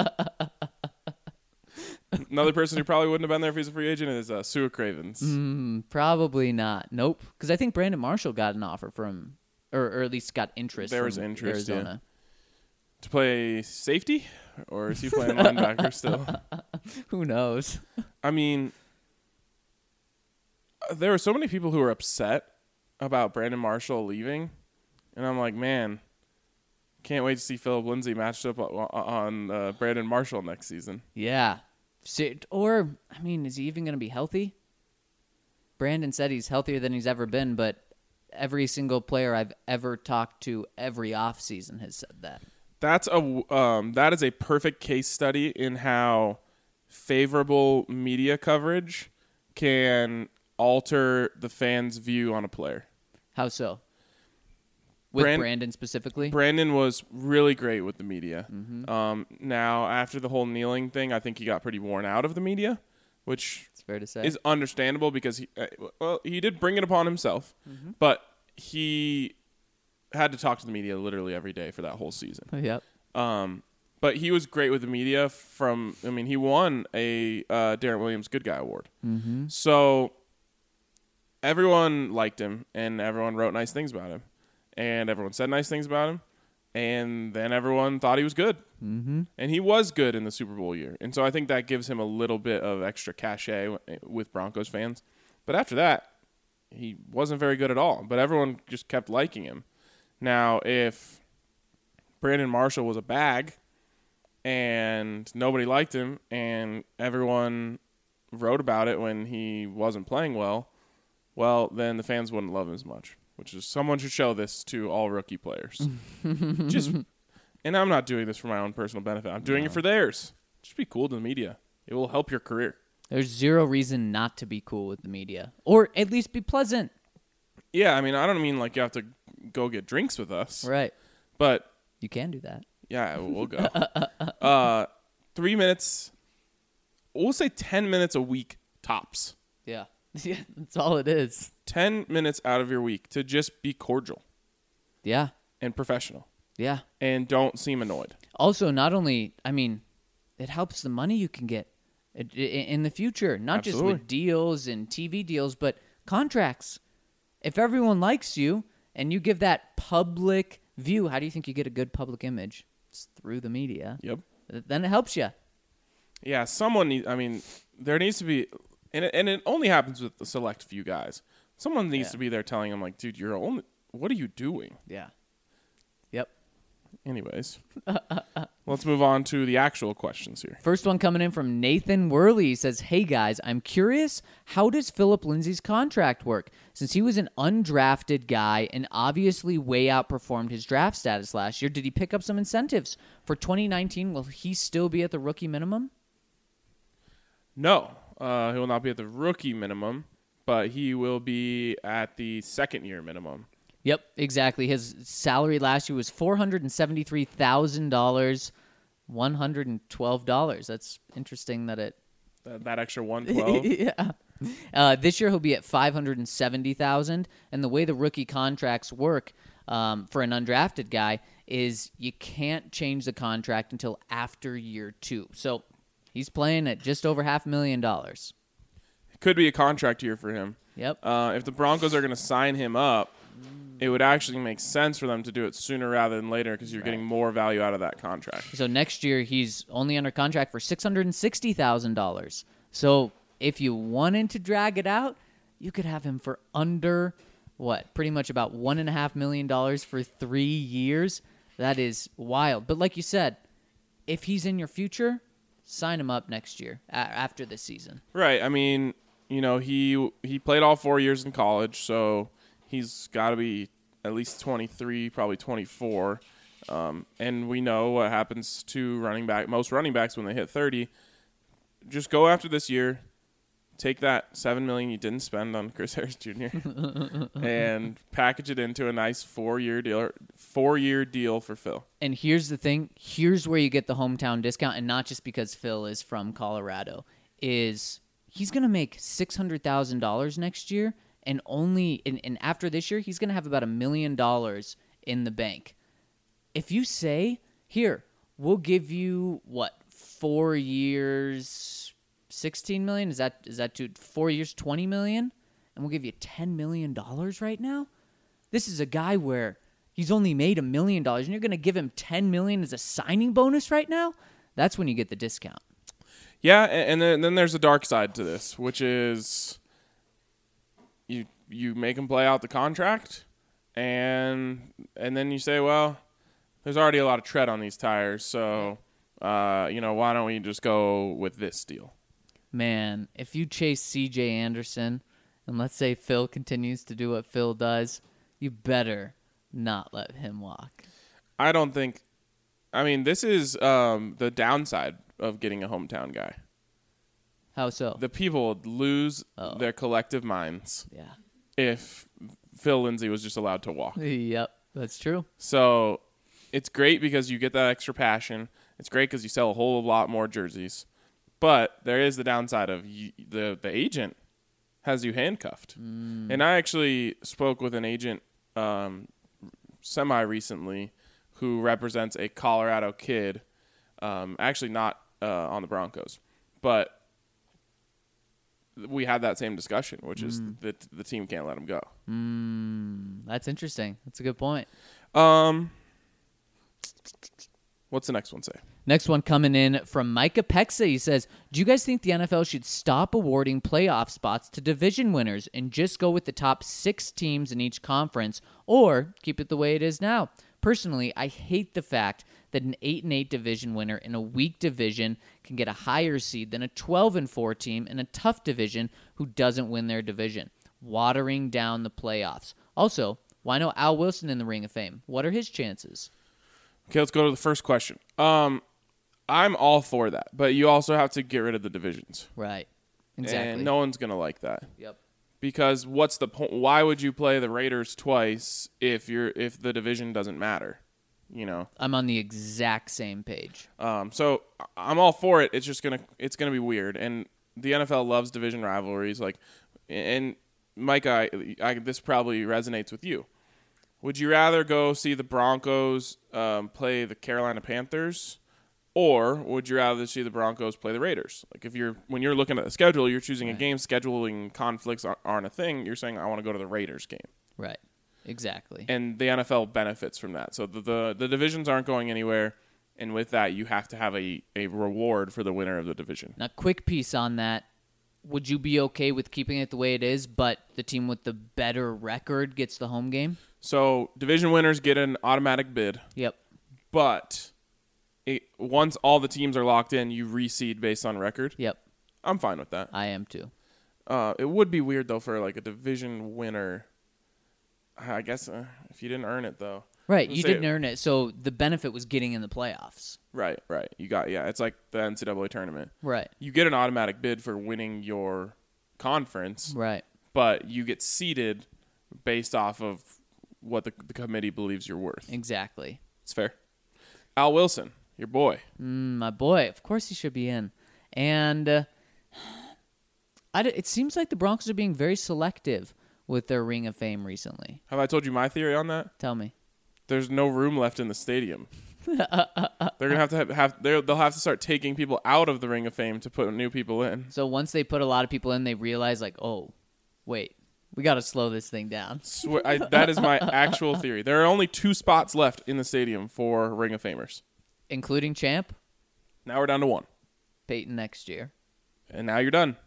Another person who probably wouldn't have been there if he's a free agent is uh, Sua Cravens. Mm, probably not. Nope. Because I think Brandon Marshall got an offer from, or, or at least got interest There from was interest, yeah. Arizona. To play safety, or is he playing linebacker still? Who knows? I mean, there were so many people who were upset about Brandon Marshall leaving, and I'm like, man, can't wait to see Philip Lindsay matched up on uh, Brandon Marshall next season. Yeah. So- Or, I mean, is he even going to be healthy? Brandon said he's healthier than he's ever been, but every single player I've ever talked to every offseason has said that. That's a um, that is a perfect case study in how favorable media coverage can alter the fans' view on a player. How so? With Brand- Brandon specifically? Brandon was really great with the media. Mm-hmm. Um, now, after the whole kneeling thing, I think he got pretty worn out of the media, which It's fair to say. is understandable because he, uh, well, he did bring it upon himself, Mm-hmm. but he had to talk to the media literally every day for that whole season. Yep. Um, but he was great with the media. From, I mean, he won a uh, Darren Williams Good Guy Award. Mm-hmm. So everyone liked him, and everyone wrote nice things about him, and everyone said nice things about him, and then everyone thought he was good. Mm-hmm. And he was good in the Super Bowl year. And so I think that gives him a little bit of extra cachet with Broncos fans. But after that, he wasn't very good at all. But everyone just kept liking him. Now, if Brandon Marshall was a bag and nobody liked him and everyone wrote about it when he wasn't playing well, well, then the fans wouldn't love him as much. Which is, someone should show this to all rookie players. Just, and I'm not doing this for my own personal benefit. I'm doing No. it for theirs. Just be cool to the media. It will help your career. There's zero reason not to be cool with the media. Or at least be pleasant. Yeah, I mean, I don't mean like you have to go get drinks with us. Right. But, You can do that. yeah, we'll go. uh, three minutes, we'll say ten minutes a week tops. Yeah. Yeah, that's all it is. ten minutes out of your week to just be cordial Yeah. and professional Yeah. and don't seem annoyed. Also, not only, I mean, it helps the money you can get i- i- in the future, not just Absolutely. with deals and T V deals, but contracts. If everyone likes you and you give that public view, how do you think you get a good public image? It's through the media. Yep. Then it helps you. Yeah, someone need, I mean, there needs to be, and it, and it only happens with the select few guys. Someone needs Yeah. to be there telling them, like, dude, you're only, what are you doing? Yeah. Yep. Anyways, let's move on to the actual questions here. First one coming in from Nathan Worley. He says, hey guys, I'm curious, how does Philip Lindsay's contract work? Since he was an undrafted guy and obviously way outperformed his draft status last year, did he pick up some incentives? For twenty nineteen, will he still be at the rookie minimum? No, uh, he will not be at the rookie minimum, but he will be at the second year minimum. Yep, exactly. His salary last year was four hundred seventy-three thousand dollars, one hundred twelve dollars. That's interesting that it... That, that extra one hundred twelve dollars? Yeah. Uh, this year he'll be at five hundred seventy thousand dollars, and the way the rookie contracts work um, for an undrafted guy is you can't change the contract until after year two. So he's playing at just over half a million dollars. It could be a contract year for him. Yep. Uh, if the Broncos are going to sign him up, it would actually make sense for them to do it sooner rather than later because you're right. getting more value out of that contract. So next year, he's only under contract for six hundred sixty thousand dollars. So if you wanted to drag it out, you could have him for under, what, pretty much about one point five million dollars for three years. That is wild. But like you said, if he's in your future, sign him up next year a- after this season. Right. I mean, you know, he he played all four years in college, so he's got to be at least twenty-three, probably twenty-four. Um, and we know what happens to running back, most running backs when they hit thirty. Just go after this year. Take that seven million dollars you didn't spend on Chris Harris Junior and package it into a nice four-year deal, four-year deal for Phil. And here's the thing. Here's where you get the hometown discount, and not just because Phil is from Colorado, is he's going to make six hundred thousand dollars next year. And only and, and after this year, he's going to have about a million dollars in the bank. If you say, here, we'll give you, what, four years, sixteen million dollars? Is that is that to four years, twenty million dollars? And we'll give you ten million dollars right now? This is a guy where he's only made a million dollars, and you're going to give him ten million dollars as a signing bonus right now? That's when you get the discount. Yeah, and then, then there's a dark side to this, which is... You you make him play out the contract, and and then you say, well, there's already a lot of tread on these tires, so uh, you know, why don't we just go with this deal? Man, if you chase C J Anderson, and let's say Phil continues to do what Phil does, you better not let him walk. I don't think. I mean, this is um, the downside of getting a hometown guy. How so? The people would lose oh. their collective minds. Yeah. If Phil Lindsay was just allowed to walk. Yep, that's true. So it's great because you get that extra passion. It's great because you sell a whole lot more jerseys. But there is the downside of you, the the agent has you handcuffed. Mm. And I actually spoke with an agent um, semi recently who represents a Colorado kid. Um, actually, not uh, on the Broncos, but. We had that same discussion, which is mm. that the team can't let him go. Mm, that's interesting. That's a good point. Um, what's the next one say? Next one coming in from Micah Pexa. He says, do you guys think the N F L should stop awarding playoff spots to division winners and just go with the top six teams in each conference, or keep it the way it is now? Personally, I hate the fact that an eight and eight division winner in a weak division can get a higher seed than a twelve and four team in a tough division who doesn't win their division, watering down the playoffs. Also, why no Al Wilson in the Ring of Fame? What are his chances? Okay, let's go to the first question. Um, I'm all for that, but you also have to get rid of the divisions. Right. Exactly. And no one's going to like that. Yep. Because what's the point? Why would you play the Raiders twice if you're if the division doesn't matter? You know, I'm on the exact same page. Um, so I'm all for it. It's just gonna it's gonna be weird, and the N F L loves division rivalries. Like, and Mike, I, I this probably resonates with you. Would you rather go see the Broncos um, play the Carolina Panthers, or would you rather see the Broncos play the Raiders? Like, if you're when you're looking at the schedule, you're choosing right. a game. Scheduling conflicts aren't a thing. You're saying I want to go to the Raiders game. Right. Exactly. And the N F L benefits from that. So the, the the divisions aren't going anywhere, and with that, you have to have a, a reward for the winner of the division. Now, quick piece on that. Would you be okay with keeping it the way it is, but the team with the better record gets the home game? So division winners get an automatic bid. Yep. but it, once all the teams are locked in, you reseed based on record. Yep, I'm fine with that. I am too. Uh, it would be weird, though, for like a division winner. I guess uh, if you didn't earn it, though. Right, Let's you say- didn't earn it, so the benefit was getting in the playoffs. Right, right. You got, yeah, it's like the N C double A tournament. Right, You get an automatic bid for winning your conference, right. but you get seeded based off of what the, the committee believes you're worth. Exactly. It's fair. Al Wilson, your boy. Mm, my boy, of course he should be in. And uh, I d- it seems like the Broncos are being very selective with their Ring of Fame recently. Have I told you my theory on that? Tell me. There's no room left in the stadium. They're gonna have to have, have they're- they'll have to start taking people out of the Ring of Fame to put new people in. So once they put a lot of people in, they realize, like, oh, wait, we got to slow this thing down. Swear, I, that is my actual theory. There are only two spots left in the stadium for Ring of Famers. Including Champ, Now we're down to one, Peyton next year. and now you're done.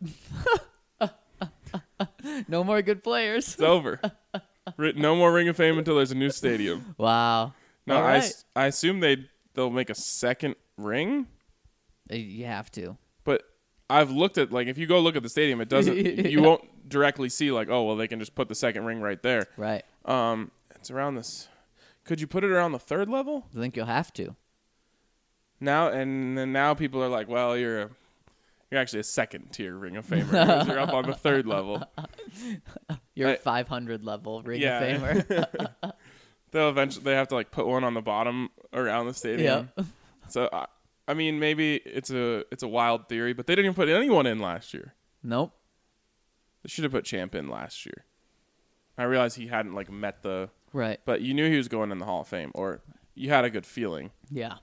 No more good players. It's over. Ri- No more Ring of Fame until there's a new stadium. Wow. No, All I, right. s- I assume they they'll make a second ring, Uh, You have to. but I've looked at like if you go look at the stadium, it doesn't. You won't directly see like oh well they can just put the second ring right there. Right. Um, it's around this. Could you put it around the third level I think you'll have to. now? And then now people are like, well, you're a, you're actually a second tier Ring of Famer because you're up on the third level. You're I- a five hundred level Ring Yeah. of Famer. They'll eventually they have to like put one on the bottom around the stadium. Yep. So I, I mean maybe it's a it's a wild theory, but they didn't even put anyone in last year. Nope. They should have put Champ in last year. I realized he hadn't like met the, Right. but you knew he was going in the Hall of Fame, or you had a good feeling. Yeah.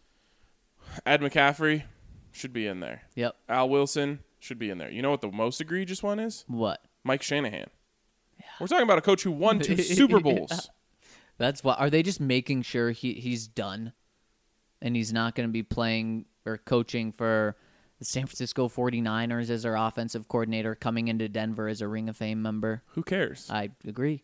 Ed McCaffrey should be in there. Yep. Al Wilson should be in there. You know what the most egregious one is? What? Mike Shanahan. We're talking about a coach who won two Super Bowls. That's why. Are they just making sure he he's done, and he's not going to be playing or coaching for the San Francisco forty-niners as their offensive coordinator, coming into Denver as a Ring of Fame member? Who cares? I agree.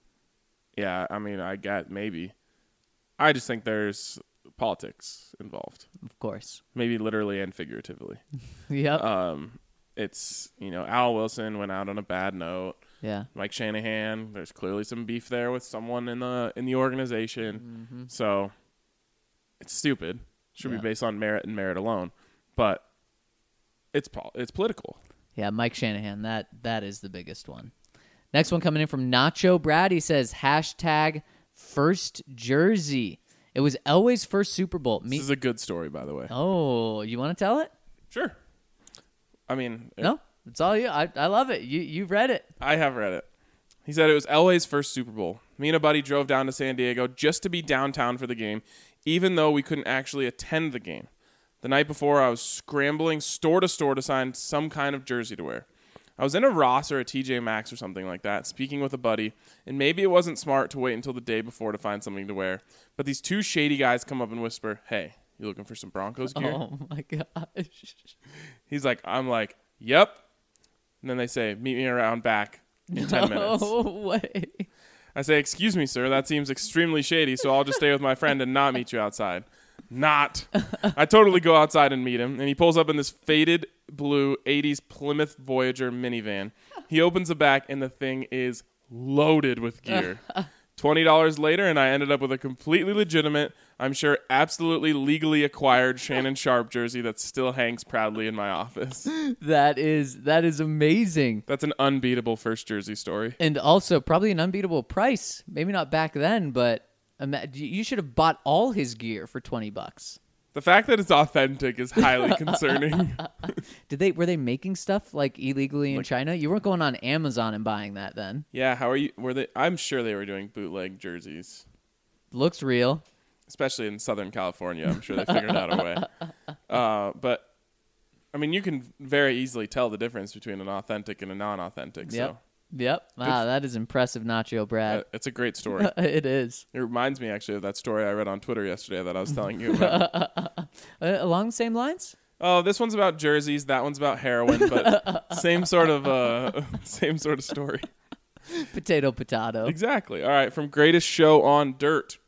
Yeah, I mean, I get maybe. I just think there's politics involved, Of course. maybe literally and figuratively. Yep. Um, it's you know Al Wilson went out on a bad note. yeah. Mike Shanahan, there's clearly some beef there with someone in the in the organization. So it's stupid. Should Yeah. be based on merit and merit alone. But it's pol- it's political. Yeah, Mike Shanahan. That that is the biggest one. Next one coming in from Nacho Brad. He says hashtag first jersey. It was Elway's first Super Bowl. Me- This is a good story, by the way. oh, you want to tell it? Sure. I mean, No, it's all you. I I love it. You you've read it. I have read it. He said it was Elway's first Super Bowl. Me and a buddy drove down to San Diego just to be downtown for the game, even though we couldn't actually attend the game. The night before, I was scrambling store to store to find some kind of jersey to wear. I was in a Ross or a T J Maxx or something like that, speaking with a buddy, and maybe it wasn't smart to wait until the day before to find something to wear. But these two shady guys come up and whisper, "Hey, you looking for some Broncos gear?" Oh my gosh. He's like, I'm like, "Yep." And then they say, "Meet me around back in ten minutes." No way. I say, "Excuse me, sir, that seems extremely shady, so I'll just stay with my friend and not meet you outside." Not. I totally go outside and meet him, and he pulls up in this faded blue eighties Plymouth Voyager minivan. He opens the back, and the thing is loaded with gear. twenty dollars later, and I ended up with a completely legitimate, I'm sure absolutely legally acquired Shannon Sharp jersey that still hangs proudly in my office. That is that is amazing. That's an unbeatable first jersey story. And also probably an unbeatable price. Maybe not back then, but ima- you should have bought all his gear for twenty bucks. The fact that it's authentic is highly concerning. Did they were they making stuff like illegally in China? You weren't going on Amazon and buying that then. Yeah, how are you? Were they? I'm sure they were doing bootleg jerseys, Looks real. especially in Southern California. I'm sure they figured out a way. Uh, but I mean, you can very easily tell the difference between an authentic and a non-authentic. Yep. So Yep. Wow, that is impressive, Nacho uh, Brad. it's a great story. It is. It reminds me actually of that story I read on Twitter yesterday that I was telling you about. Uh, along the same lines? Oh, this one's about jerseys. That one's about heroin, but same sort of uh, same sort of story. Potato potato. Exactly. All right, from Greatest Show on Dirt.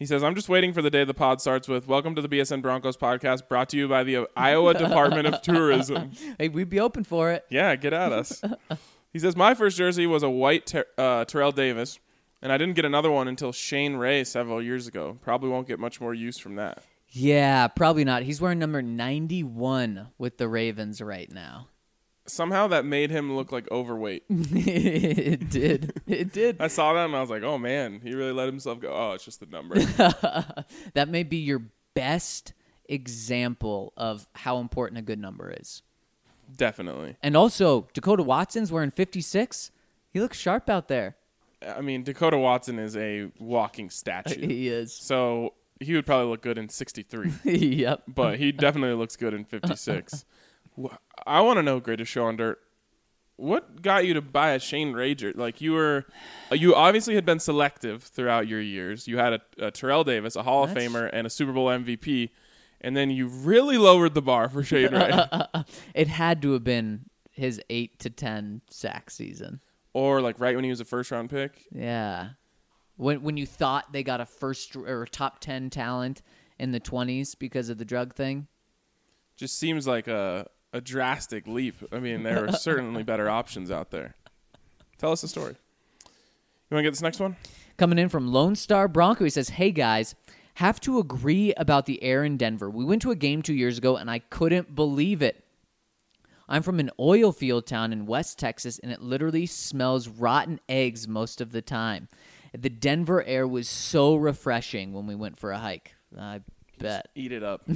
He says, I'm just waiting for the day the pod starts with, welcome to the B S N Broncos podcast, brought to you by the Iowa Department of Tourism. Hey, we'd be open for it. Yeah, get at us. He says, my first jersey was a white ter- uh, Terrell Davis, and I didn't get another one until Shane Ray several years ago. Probably won't get much more use from that. Yeah, probably not. He's wearing number ninety-one with the Ravens right now. Somehow that made him look like overweight. It did. It did. I saw that and I was like, oh, man, he really let himself go. Oh, it's just the number. That may be your best example of how important a good number is. Definitely. And also, Dakota Watson's wearing fifty-six. He looks sharp out there. I mean, Dakota Watson is a walking statue. He is. So he would probably look good in sixty-three. Yep. But he definitely looks good in fifty-six. I want to know, Greatest Show on Dirt, what got you to buy a Shane Ray jersey? Like, you were, you obviously had been selective throughout your years. You had a, a Terrell Davis, a Hall That's... of Famer, and a Super Bowl M V P, and then you really lowered the bar for Shane Ray. It had to have been his eight to ten sack season. Or like right when he was a first round pick. Yeah. When when you thought they got a first or a top ten talent in the twenties because of the drug thing. Just seems like a, a drastic leap. I mean, there are certainly better options out there. Tell us a story. You want to get this next one? Coming in from Lone Star Bronco, he says, hey guys, have to agree about the air in Denver. We went to a game two years ago and I couldn't believe it. I'm from an oil field town in West Texas, and it literally smells rotten eggs most of the time. The Denver air was so refreshing when we went for a hike. I bet. Eat it up.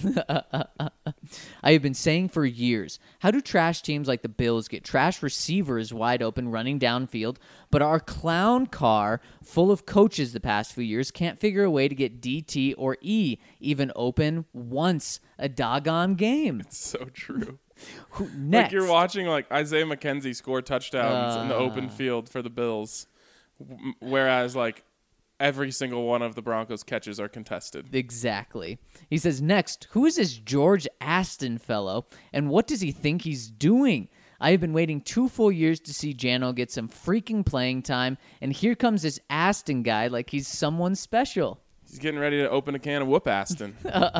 I have been saying for years, how do trash teams like the Bills get trash receivers wide open running downfield, but our clown car full of coaches the past few years can't figure a way to get D T or E even open once a doggone game? It's so true. Who, next. Like you're watching like Isaiah McKenzie score touchdowns uh, in the open field for the Bills, w- whereas like every single one of the Broncos catches are contested. Exactly. He says, next, who is this George Aston fellow, and what does he think he's doing? I have been waiting two full years to see Jano get some freaking playing time, and here comes this Aston guy like he's someone special. He's getting ready to open a can of whoop Aston.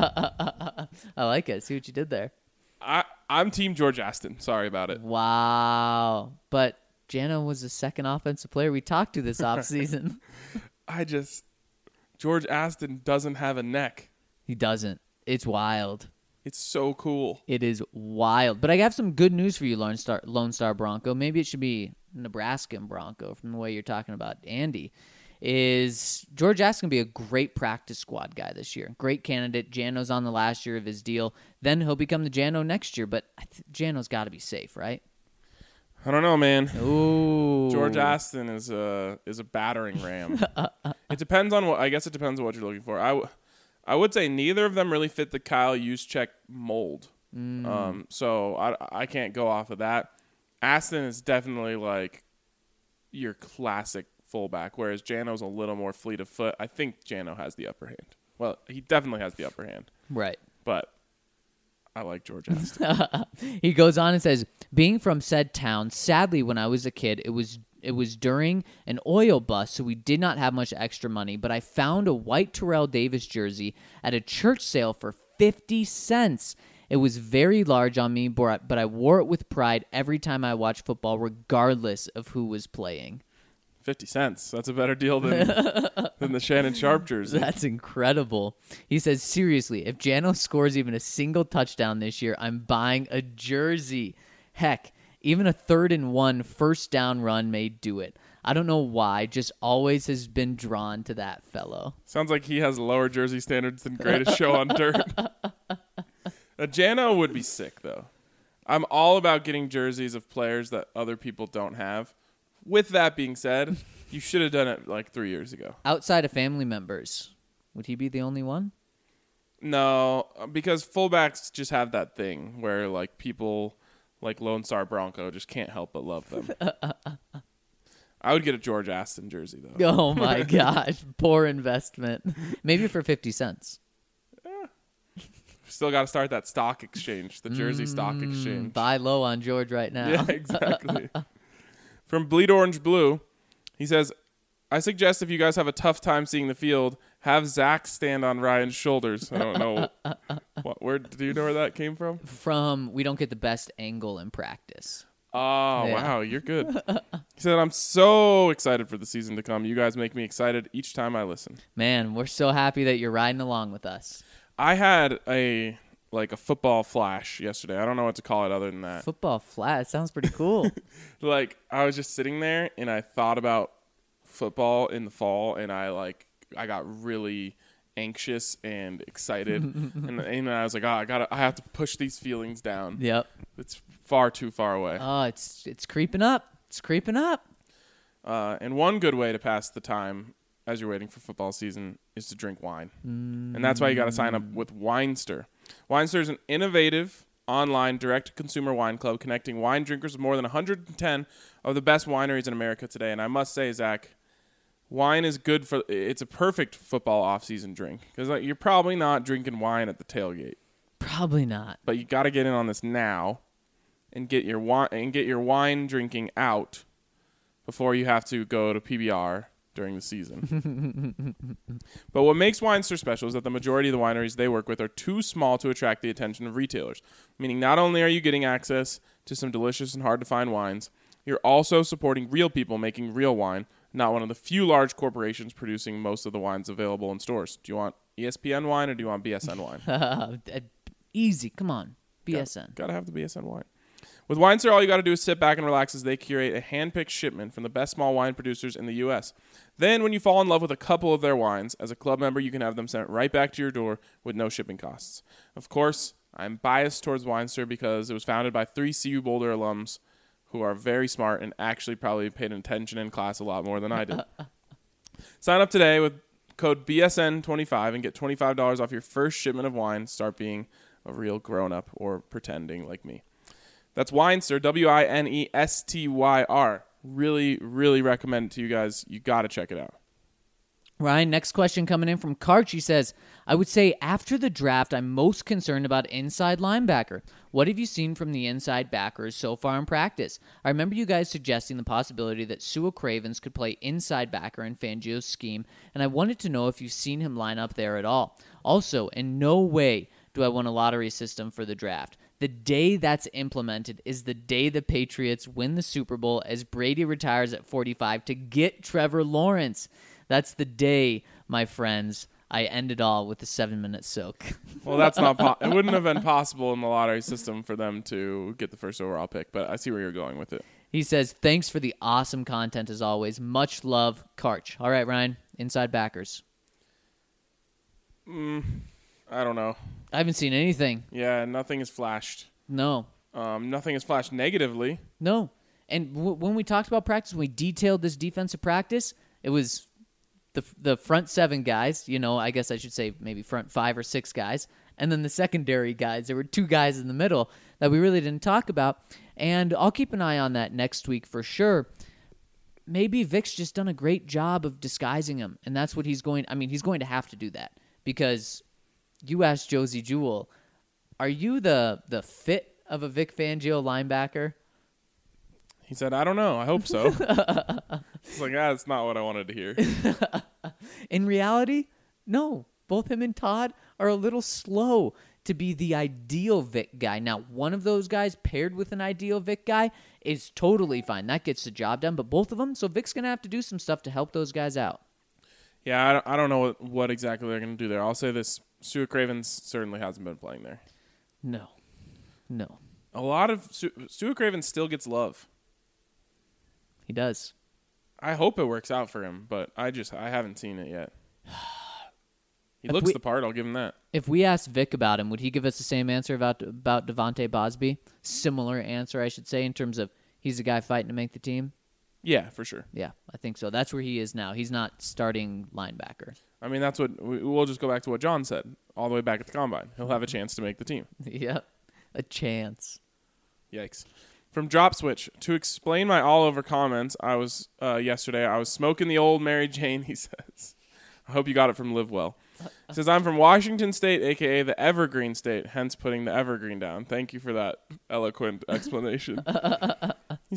I like it. See what you did there. I, I'm Team George Aston. Sorry about it. Wow. But Jano was the second offensive player we talked to this offseason. I just... George Aston doesn't have a neck. He doesn't. It's wild. It's so cool. It is wild. But I have some good news for you, Lone Star, Lone Star Bronco. Maybe it should be Nebraskan Bronco from the way you're talking about Andy. Is George Aston going to be a great practice squad guy this year? Great candidate. Jano's on the last year of his deal. Then he'll become the Jano next year. But I th- Jano's got to be safe, right? I don't know, man. Ooh. George Aston is a is a battering ram. It depends on what. I guess it depends on what you're looking for. I, w- I would say neither of them really fit the Kyle Juszczyk mold. Mm. Um, so I I can't go off of that. Aston is definitely like your classic fullback, whereas Jano's a little more fleet of foot. I think Jano has the upper hand. Well, he definitely has the upper hand. Right. But I like George Aston. He goes on and says, being from said town, sadly, when I was a kid, it was it was during an oil bust, so we did not have much extra money, but I found a white Terrell Davis jersey at a church sale for fifty cents. It was very large on me, but I wore it with pride every time I watched football, regardless of who was playing. fifty cents. That's a better deal than than the Shannon Sharp jersey. That's incredible. He says, seriously, if Jano scores even a single touchdown this year, I'm buying a jersey. Heck, even a third and one first down run may do it. I don't know why, just always has been drawn to that fellow. Sounds like he has lower jersey standards than Greatest Show on Dirt. A Jano would be sick, though. I'm all about getting jerseys of players that other people don't have. With that being said, you should have done it like three years ago. Outside of family members, would he be the only one? No, because fullbacks just have that thing where like people like Lone Star Bronco just can't help but love them. I would get a George Aston jersey, though. Oh, my gosh. Poor investment. Maybe for fifty cents. Still got to start that stock exchange, the jersey mm, stock exchange. Buy low on George right now. Yeah, exactly. From Bleed Orange Blue, he says, I suggest if you guys have a tough time seeing the field, Have Zach stand on Ryan's shoulders. I don't know. what, where do you know where that came from? From we don't get the best angle in practice. Oh, Yeah. wow. You're good. He said, I'm so excited for the season to come. You guys make me excited each time I listen. Man, we're so happy that you're riding along with us. I had a like a football flash yesterday. I don't know what to call it other than that. Football flat. It sounds pretty cool. Like I was just sitting there and I thought about football in the fall and I like I got really anxious and excited and, and I was like, oh, I gotta I have to push these feelings down. Yep. It's far too far away. Oh, it's it's creeping up. It's creeping up. Uh, and one good way to pass the time as you're waiting for football season is to drink wine. Mm. And that's why you got to sign up with Winester. Winester is an innovative online direct-to-consumer wine club connecting wine drinkers with more than one hundred ten of the best wineries in America today. And I must say, Zach, wine is good for – it's a perfect football off-season drink because like, you're probably not drinking wine at the tailgate. Probably not. But you got to get in on this now and get your wine and get your wine drinking out before you have to go to P B R during the season. But what makes Winester special is that the majority of the wineries they work with are too small to attract the attention of retailers, meaning not only are you getting access to some delicious and hard-to-find wines, you're also supporting real people making real wine, not one of the few large corporations producing most of the wines available in stores. Do you want E S P N wine or do you want B S N wine? Easy. Come on. B S N. Got, gotta have the B S N wine. With Winester, all you got to do is sit back and relax as they curate a hand-picked shipment from the best small wine producers in the U S Then, when you fall in love with a couple of their wines, as a club member, you can have them sent right back to your door with no shipping costs. Of course, I'm biased towards Winester because it was founded by three C U Boulder alums who are very smart and actually probably paid attention in class a lot more than I did. Sign up today with code B S N twenty-five and get twenty-five dollars off your first shipment of wine. Start being a real grown-up or pretending like me. That's Winester, W I N E S T Y R. Really, really recommend it to you guys. You got to check it out. Ryan, next question coming in from Karch. He says, I would say after the draft, I'm most concerned about inside linebacker. What have you seen from the inside backers so far in practice? I remember you guys suggesting the possibility that Sua Cravens could play inside backer in Fangio's scheme, and I wanted to know if you've seen him line up there at all. Also, in no way do I want a lottery system for the draft. The day that's implemented is the day the Patriots win the Super Bowl as Brady retires at forty-five to get Trevor Lawrence. That's the day, my friends, I end it all with a seven-minute soak. Well, that's not po- it wouldn't have been possible in the lottery system for them to get the first overall pick, but I see where you're going with it. He says, thanks for the awesome content as always. Much love, Karch. All right, Ryan, inside backers. Mm, I don't know. I haven't seen anything. Yeah, nothing is flashed. No. Um, nothing is flashed negatively. No. And w- when we talked about practice, when we detailed this defensive practice, it was the the front seven guys, you know, I guess I should say maybe front five or six guys, and then the secondary guys. There were two guys in the middle that we really didn't talk about, and I'll keep an eye on that next week for sure. Maybe Vic's just done a great job of disguising him, and that's what he's going – I mean, he's going to have to do that because you asked Josie Jewell, are you the the fit of a Vic Fangio linebacker? He said, I don't know. I hope so. It's like, ah, that's not what I wanted to hear. In reality, no. Both him and Todd are a little slow to be the ideal Vic guy. Now, one of those guys paired with an ideal Vic guy is totally fine. That gets the job done. But both of them, so Vic's going to have to do some stuff to help those guys out. Yeah, I don't, I don't know what, what exactly they're going to do there. I'll say this. Sua Cravens certainly hasn't been playing there. No. No. A lot of Su- Sua Cravens still gets love. He does. I hope it works out for him, but I just I haven't seen it yet. He If looks we- the part. I'll give him that. If we asked Vic about him, would he give us the same answer about about Devontae Bosby? Similar answer, I should say, in terms of he's a guy fighting to make the team? Yeah, for sure. Yeah, I think so. That's where he is now. He's not starting linebacker. I mean, that's what we, we'll just go back to what John said all the way back at the combine. He'll have a chance to make the team. Yep, a chance. Yikes. From Drop Switch, to explain my all-over comments, I was uh, yesterday, I was smoking the old Mary Jane, he says. I hope you got it from Live Well. He says, I'm from Washington State, a k a the Evergreen State, hence putting the Evergreen down. Thank you for that eloquent explanation. He says,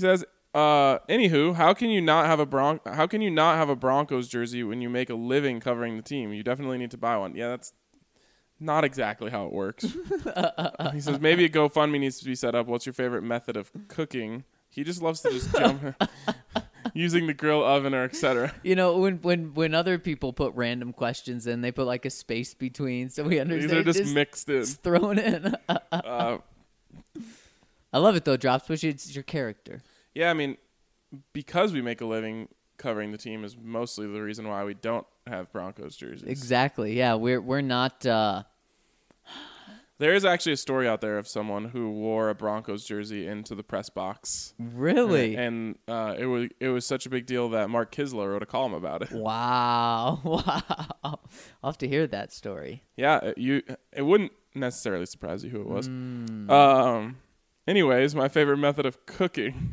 Uh, anywho, how can you not have a Bron- How can you not have a Broncos jersey when you make a living covering the team? You definitely need to buy one. Yeah, that's not exactly how it works. He says maybe a GoFundMe needs to be set up. What's your favorite method of cooking? He just loves to just jump using the grill, oven, or et cetera. You know, when when when other people put random questions in, they put like a space between, so we understand. These are just, just mixed in. Just thrown in. uh, I love it though, Drops, which it's your character. Yeah, I mean, because we make a living covering the team is mostly the reason why we don't have Broncos jerseys. Exactly. Yeah, we're we're not. Uh... There is actually a story out there of someone who wore a Broncos jersey into the press box. Really? And, and uh, it was it was such a big deal that Mark Kisler wrote a column about it. Wow! Wow! I'll have to hear that story. Yeah, you. It wouldn't necessarily surprise you who it was. Mm. Um. Anyways, my favorite method of cooking.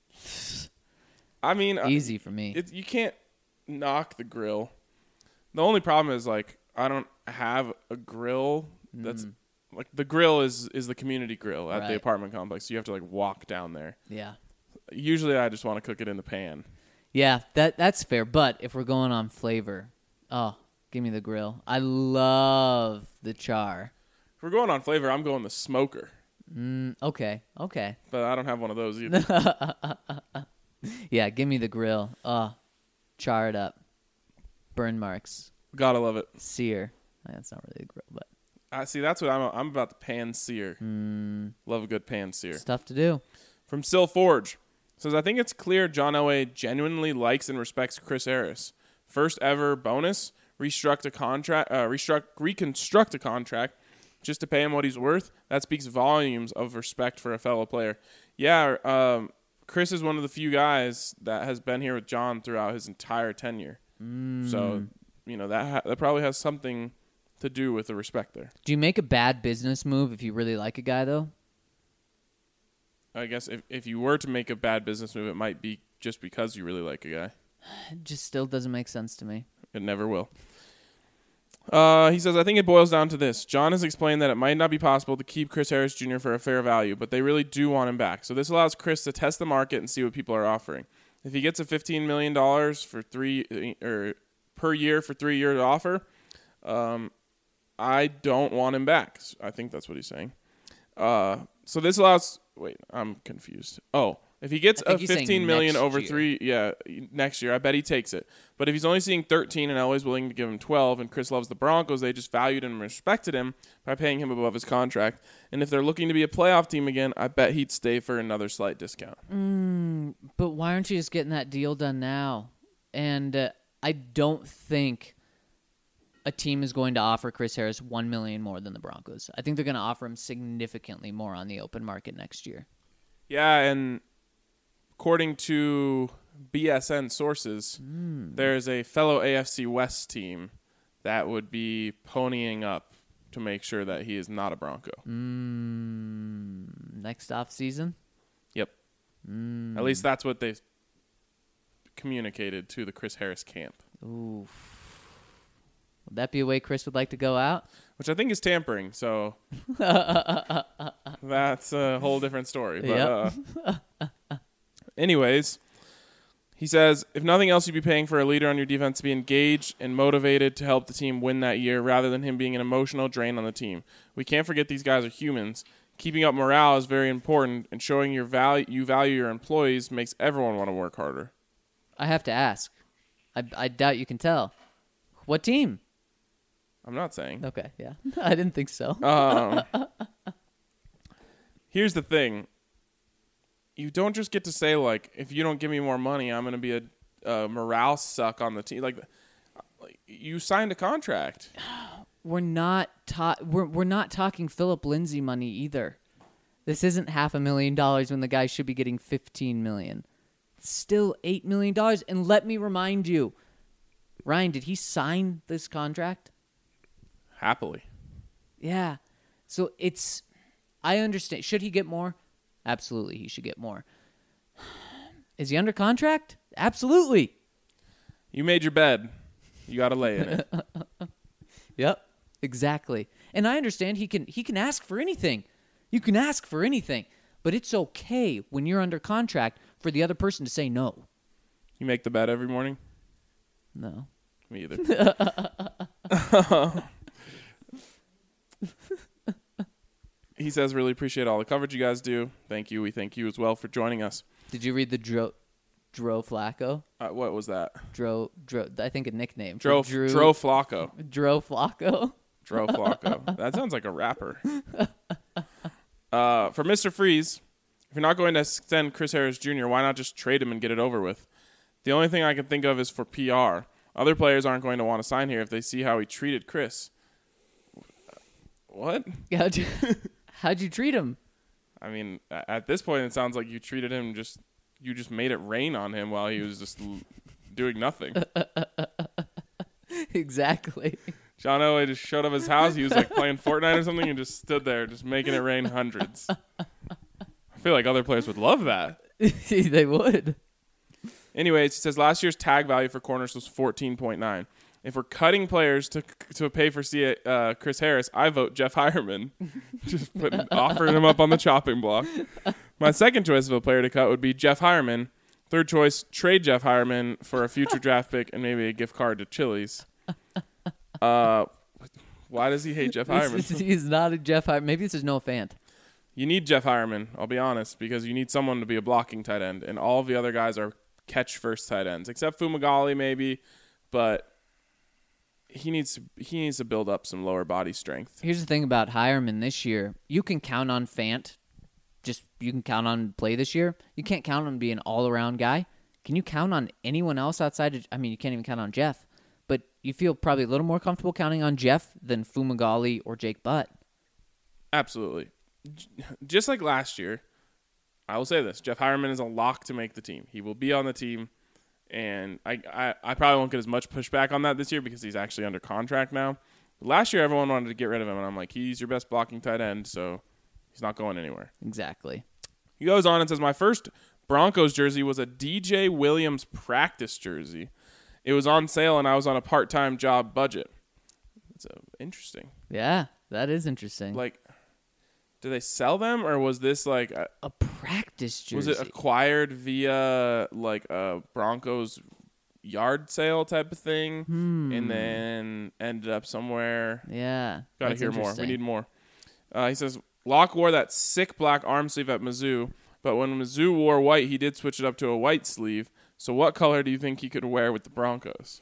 I mean, easy for me. It, you can't knock the grill. The only problem is like I don't have a grill that's. Mm. Like the grill is, is the community grill at right. the apartment complex. You have to like walk down there. Yeah. Usually I just want to cook it in the pan. Yeah, that that's fair. But if we're going on flavor, oh, give me the grill. I love the char. If we're going on flavor, I'm going the smoker. Mm, okay, okay. But I don't have one of those either. Yeah, give me the grill. Oh, char it up. Burn marks. Gotta love it. Sear. That's not really a grill, but. I see. That's what I'm. I'm about the pan sear. Mm. Love a good pan sear. Stuff to do. From Sil Forge says, I think it's clear John Elway genuinely likes and respects Chris Harris. First ever bonus, restruct a contract, uh, restruct, reconstruct a contract, just to pay him what he's worth. That speaks volumes of respect for a fellow player. Yeah, um, Chris is one of the few guys that has been here with John throughout his entire tenure. Mm. So, you know that ha- that probably has something to do with the respect there. Do you make a bad business move if you really like a guy, though? I guess if, if you were to make a bad business move, it might be just because you really like a guy. It just still doesn't make sense to me. It never will. Uh, he says, I think it boils down to this. John has explained that it might not be possible to keep Chris Harris Junior for a fair value, but they really do want him back. So this allows Chris to test the market and see what people are offering. If he gets a fifteen million dollars for three or per year for three year offer, um, I don't want him back. I think that's what he's saying. Uh, so this allows. Wait, I'm confused. Oh, if he gets a fifteen million over year. three, yeah, next year, I bet he takes it. But if he's only seeing thirteen and Elway's willing to give him twelve, and Chris loves the Broncos, they just valued and respected him by paying him above his contract. And if they're looking to be a playoff team again, I bet he'd stay for another slight discount. Mm, but why aren't you just getting that deal done now? And uh, I don't think a team is going to offer Chris Harris one million dollars more than the Broncos. I think they're going to offer him significantly more on the open market next year. Yeah, and according to B S N sources, mm. there's a fellow A F C West team that would be ponying up to make sure that he is not a Bronco. Mm. Next off season? Yep. Mm. At least that's what they've communicated to the Chris Harris camp. Ooh. Would that be a way Chris would like to go out? Which I think is tampering, so that's a whole different story. But, yep. uh, anyways, he says, if nothing else, you'd be paying for a leader on your defense to be engaged and motivated to help the team win that year rather than him being an emotional drain on the team. We can't forget these guys are humans. Keeping up morale is very important, and showing your value, you value your employees makes everyone want to work harder. I have to ask. I, I doubt you can tell. What team? I'm not saying. Okay, yeah. I didn't think so. um, here's the thing. You don't just get to say, like, if you don't give me more money, I'm going to be a, a morale suck on the team. Like, like you signed a contract. We're not ta- we're we're not talking Philip Lindsay money either. This isn't half a million dollars when the guy should be getting fifteen million. It's still eight million dollars. And let me remind you, Ryan, did he sign this contract? Happily. Yeah. So it's, I understand. Should he get more? Absolutely, he should get more. Is he under contract? Absolutely. You made your bed. You got to lay in it. Yep, exactly. And I understand he can he can ask for anything. You can ask for anything. But it's okay when you're under contract for the other person to say no. You make the bed every morning? No. Me either. He says, really appreciate all the coverage you guys do. Thank you. We thank you as well for joining us. Did you read the Dro, Dro Flacco? Uh, what was that? Dro, Dro, I think a nickname. Dro, Drew, Dro Flacco. Dro Flacco. Dro Flacco. That sounds like a rapper. Uh, for Mister Freeze, if you're not going to extend Chris Harris Junior, why not just trade him and get it over with? The only thing I can think of is for P R. Other players aren't going to want to sign here if they see how he treated Chris. What? How'd you, how'd you treat him? I mean, at this point, it sounds like you treated him just, you just made it rain on him while he was just l- doing nothing. Exactly. John Elway just showed up at his house. He was like playing Fortnite or something and just stood there, just making it rain hundreds. I feel like other players would love that. They would. Anyways, he says last year's tag value for corners was fourteen point nine. If we're cutting players to to pay for C- uh, Chris Harris, I vote Jeff Hireman. Just putting, offering him up on the chopping block. My second choice of a player to cut would be Jeff Hireman. Third choice, trade Jeff Hireman for a future draft pick and maybe a gift card to Chili's. Uh, why does he hate Jeff Hireman? He's not a Jeff Hireman. Maybe this is Noah Fant. You need Jeff Hireman, I'll be honest, because you need someone to be a blocking tight end, and all of the other guys are catch-first tight ends, except Fumagalli maybe, but he needs to, he needs to build up some lower body strength. Here's the thing about Hireman this year. You can count on Fant. Just you can count on play this year. You can't count on being an all-around guy. Can you count on anyone else outside of, I mean, you can't even count on Jeff, but you feel probably a little more comfortable counting on Jeff than Fumagalli or Jake Butt. Absolutely. Just like last year, I will say this. Jeff Hireman is a lock to make the team. He will be on the team, and I, I, I probably won't get as much pushback on that this year because he's actually under contract now. But last year, everyone wanted to get rid of him, and I'm like, he's your best blocking tight end, so he's not going anywhere. Exactly. He goes on and says, my first Broncos jersey was a D J Williams practice jersey. It was on sale, and I was on a part-time job budget. That's uh, interesting. Yeah, that is interesting. Like, do they sell them, or was this like a, a practice jersey? was it acquired via like a Broncos yard sale type of thing, hmm. and then ended up somewhere? Yeah, Got to hear more. We need more. Uh, he says Locke wore that sick black arm sleeve at Mizzou, but when Mizzou wore white, he did switch it up to a white sleeve. So what color do you think he could wear with the Broncos?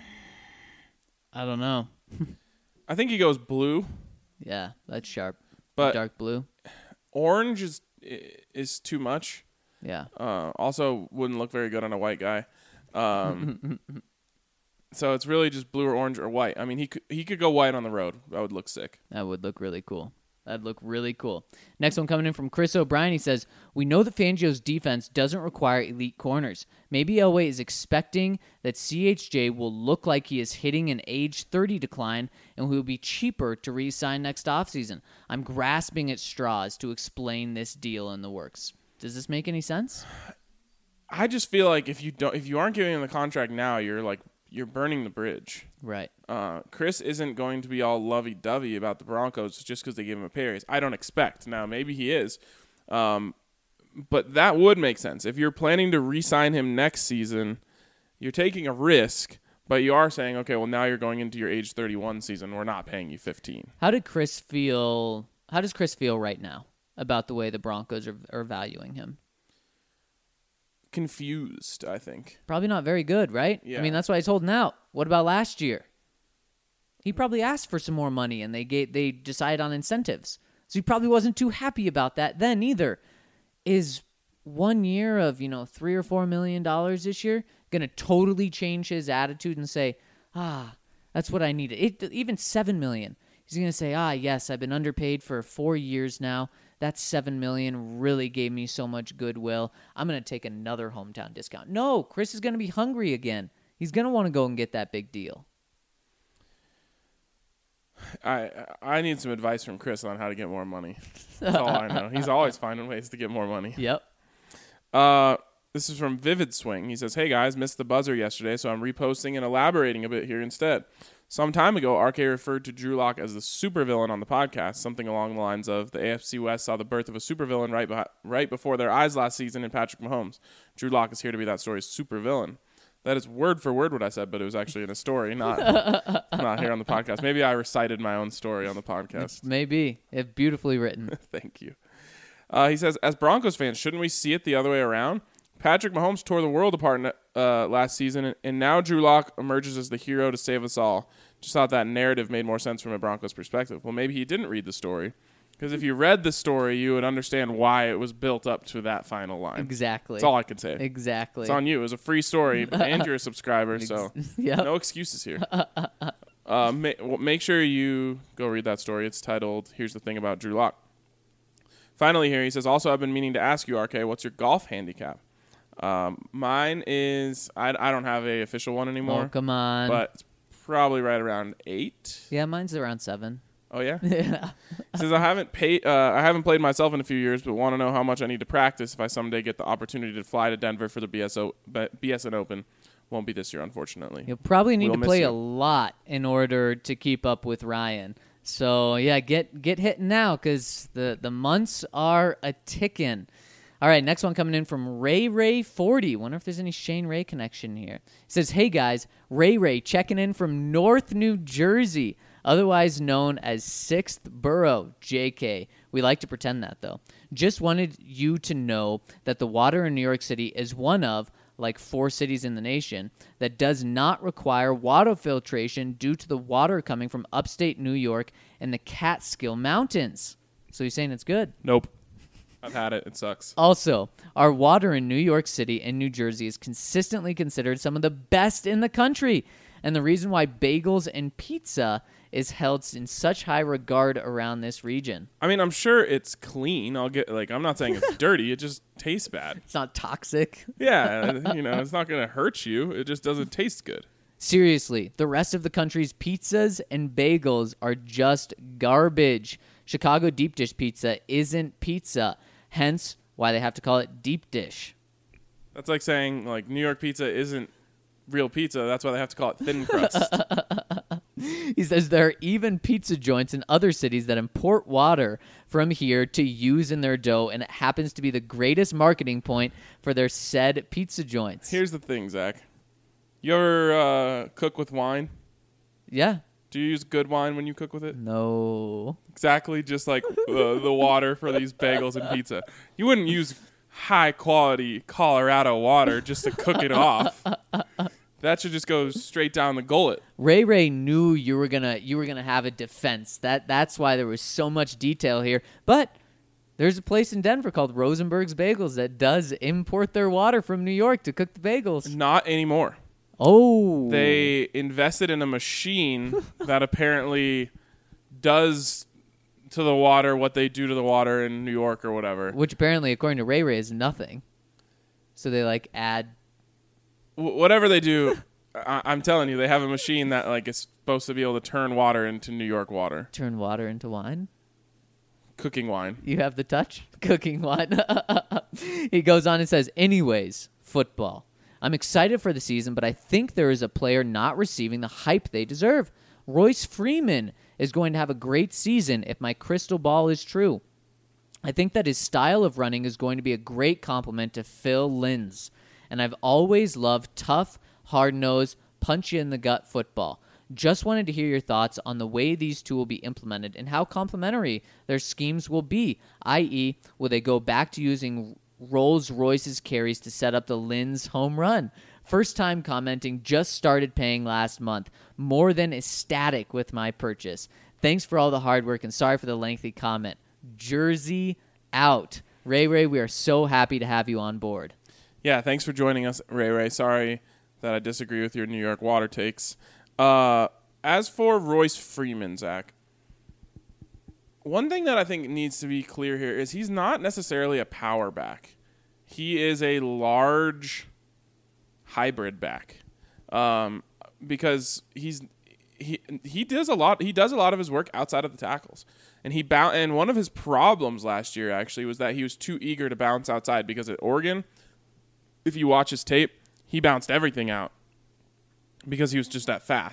I don't know. I think he goes blue. Yeah, that's sharp. But dark blue. Orange is is too much. Yeah. Uh, also, wouldn't look very good on a white guy. Um, so it's really just blue or orange or white. I mean, he could he could go white on the road. That would look sick. That would look really cool. That'd look really cool. Next one coming in from Chris O'Brien. He says, we know that Fangio's defense doesn't require elite corners. Maybe Elway is expecting that C H J will look like he is hitting an age thirty decline and will be cheaper to re-sign next offseason. I'm grasping at straws to explain this deal in the works. Does this make any sense? I just feel like if you don't, if you aren't giving him the contract now, you're like you're burning the bridge. Right. Uh, Chris isn't going to be all lovey-dovey about the Broncos just because they give him a pay raise. I don't expect. Now, maybe he is. Um, but that would make sense. If you're planning to re-sign him next season, you're taking a risk, but you are saying, okay, well, now you're going into your age thirty-one season. We're not paying you fifteen. How did Chris feel? How does Chris feel right now about the way the Broncos are, are valuing him? Confused, I think. Probably not very good, right? Yeah. I mean, that's why he's holding out. What about last year? He probably asked for some more money, and they gave, they decided on incentives. So he probably wasn't too happy about that then either. Is one year of, you know, three or four million dollars this year going to totally change his attitude and say, ah, that's what I needed? It, even seven million dollars. He's going to say, ah, yes, I've been underpaid for four years now. That seven million dollars really gave me so much goodwill. I'm going to take another hometown discount. No, Chris is going to be hungry again. He's going to want to go and get that big deal. I I need some advice from Chris on how to get more money. That's all I know. He's always finding ways to get more money. Yep. Uh, this is from Vivid Swing. He says, hey, guys, missed the buzzer yesterday, so I'm reposting and elaborating a bit here instead. Some time ago, R K referred to Drew Lock as the supervillain on the podcast, something along the lines of the A F C West saw the birth of a supervillain right, behi- right before their eyes last season in Patrick Mahomes. Drew Lock is here to be that story's supervillain. That is word for word what I said, but it was actually in a story, not not here on the podcast. Maybe I recited my own story on the podcast. Maybe. It's beautifully written. Thank you. Uh, he says, as Broncos fans, shouldn't we see it the other way around? Patrick Mahomes tore the world apart uh, last season, and now Drew Lock emerges as the hero to save us all. Just thought that narrative made more sense from a Broncos perspective. Well, maybe he didn't read the story, because if you read the story, you would understand why it was built up to that final line. Exactly. That's all I can say. Exactly. It's on you. It was a free story, and you're a subscriber, so Yep. no excuses here. uh, ma- well, make sure you go read that story. It's titled, Here's the Thing About Drew Lock. Finally here, he says, also, I've been meaning to ask you, R K, what's your golf handicap? Um, mine is, I, I don't have a official one anymore. Oh, come on. But it's probably right around eight. Yeah, mine's around seven. Oh, yeah? Yeah. He says, I haven't paid, uh, I haven't played myself in a few years, but want to know how much I need to practice if I someday get the opportunity to fly to Denver for the B S O, B S N Open. Won't be this year, unfortunately. You'll probably need We'll to miss play you. a lot in order to keep up with Ryan. So, yeah, get get hitting now because the, the months are a ticking. All right, next one coming in from Ray Ray forty. Wonder if there's any Shane Ray connection here. It says, hey, guys, Ray Ray checking in from North New Jersey, otherwise known as sixth Borough, J K. We like to pretend that, though. Just wanted you to know that the water in New York City is one of, like four cities in the nation, that does not require water filtration due to the water coming from upstate New York and the Catskill Mountains. So he's saying it's good. Nope. I've had it. It sucks. Also, our water in New York City and New Jersey is consistently considered some of the best in the country. And the reason why bagels and pizza is held in such high regard around this region. I mean, I'm sure it's clean. I'll get, like, I'm not saying it's dirty. It just tastes bad. It's not toxic. Yeah, you know, it's not going to hurt you. It just doesn't taste good. Seriously, the rest of the country's pizzas and bagels are just garbage. Chicago deep dish pizza isn't pizza, hence why they have to call it deep dish. That's like saying, like, New York pizza isn't real pizza. That's why they have to call it thin crust. He says there are even pizza joints in other cities that import water from here to use in their dough, and it happens to be the greatest marketing point for their said pizza joints. Here's the thing, Zach. You ever uh, cook with wine? Yeah. Do you use good wine when you cook with it? No. Exactly, just like uh, the water for these bagels and pizza. You wouldn't use high-quality Colorado water just to cook it off. That should just go straight down the gullet. Ray Ray knew you were gonna you were gonna have a defense. That that's why there was so much detail here. But there's a place in Denver called Rosenberg's Bagels that does import their water from New York to cook the bagels. Not anymore. Oh, They invested in a machine that apparently does to the water what they do to the water in New York or whatever. which apparently, according to Ray Ray, is nothing. So they like add. Wh- Whatever they do, I- I'm telling you, they have a machine that like is supposed to be able to turn water into New York water. Turn water into wine. Cooking wine. You have the touch? Cooking wine. He goes on and says, anyways, football. I'm excited for the season, but I think there is a player not receiving the hype they deserve. Royce Freeman is going to have a great season if my crystal ball is true. I think that his style of running is going to be a great compliment to Phil Linz. And I've always loved tough, hard-nosed, punch-you-in-the-gut football. Just wanted to hear your thoughts on the way these two will be implemented and how complementary their schemes will be, that is, will they go back to using Rolls-Royce's carries to set up the Linz home run? First time commenting, just started paying last month. More than ecstatic with my purchase. Thanks for all the hard work and sorry for the lengthy comment. Jersey out. Ray Ray, we are so happy to have you on board. Yeah, thanks for joining us, Ray Ray. Sorry that I disagree with your New York water takes. Uh, as for Royce Freeman, Zach, one thing that I think needs to be clear here is he's not necessarily a power back. He is a large hybrid back, um, because he's he he does a lot. He does a lot of his work outside of the tackles, and he boun- And one of his problems last year actually was that he was too eager to bounce outside because at Oregon, if you watch his tape, he bounced everything out because he was just that fast.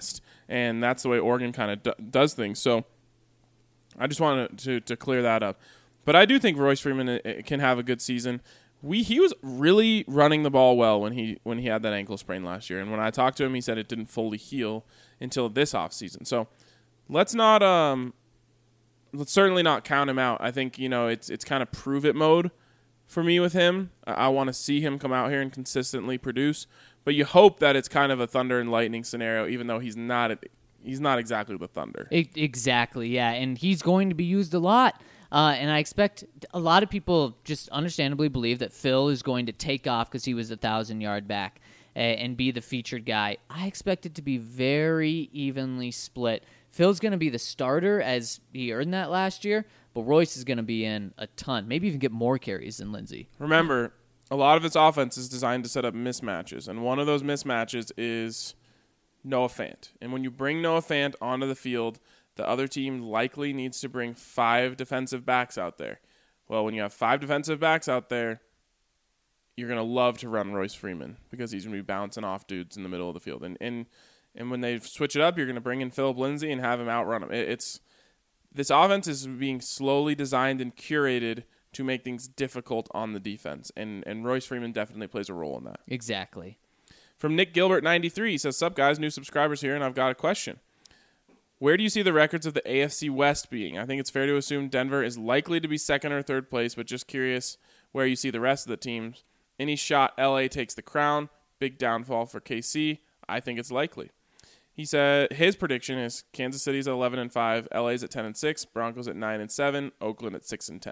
and that's the way Oregon kind of d- does things. So I just wanted to, to clear that up. But I do think Royce Freeman can have a good season. We he was really running the ball well when he when he had that ankle sprain last year. And when I talked to him, he said it didn't fully heal until this offseason. So let's not um let's certainly not count him out. I think, you know, it's it's kind of prove it mode for me with him. I, I want to see him come out here and consistently produce. But you hope that it's kind of a thunder and lightning scenario, even though he's not he's not exactly the Thunder. It, exactly, yeah. And he's going to be used a lot. Uh, and I expect a lot of people just understandably believe that Phil is going to take off because he was a thousand-yard back uh, and be the featured guy. I expect it to be very evenly split. Phil's going to be the starter as he earned that last year, but Royce is going to be in a ton, maybe even get more carries than Lindsey. Remember, a lot of its offense is designed to set up mismatches, and one of those mismatches is Noah Fant. And when you bring Noah Fant onto the field, the other team likely needs to bring five defensive backs out there. Well, when you have five defensive backs out there, you're going to love to run Royce Freeman because he's going to be bouncing off dudes in the middle of the field. And and, and when they switch it up, you're going to bring in Philip Lindsay and have him outrun him. It, it's this offense is being slowly designed and curated to make things difficult on the defense. And, and Royce Freeman definitely plays a role in that. Exactly. From Nick Gilbert ninety-three, he says, "Sup, guys, new subscribers here, and I've got a question. Where do you see the records of the A F C West being? I think it's fair to assume Denver is likely to be second or third place, but just curious where you see the rest of the teams. Any shot L A takes the crown? Big downfall for K C. I think it's likely." He said his prediction is Kansas City's at eleven and five, L A's at ten and six, Broncos at nine and seven, Oakland at six and ten.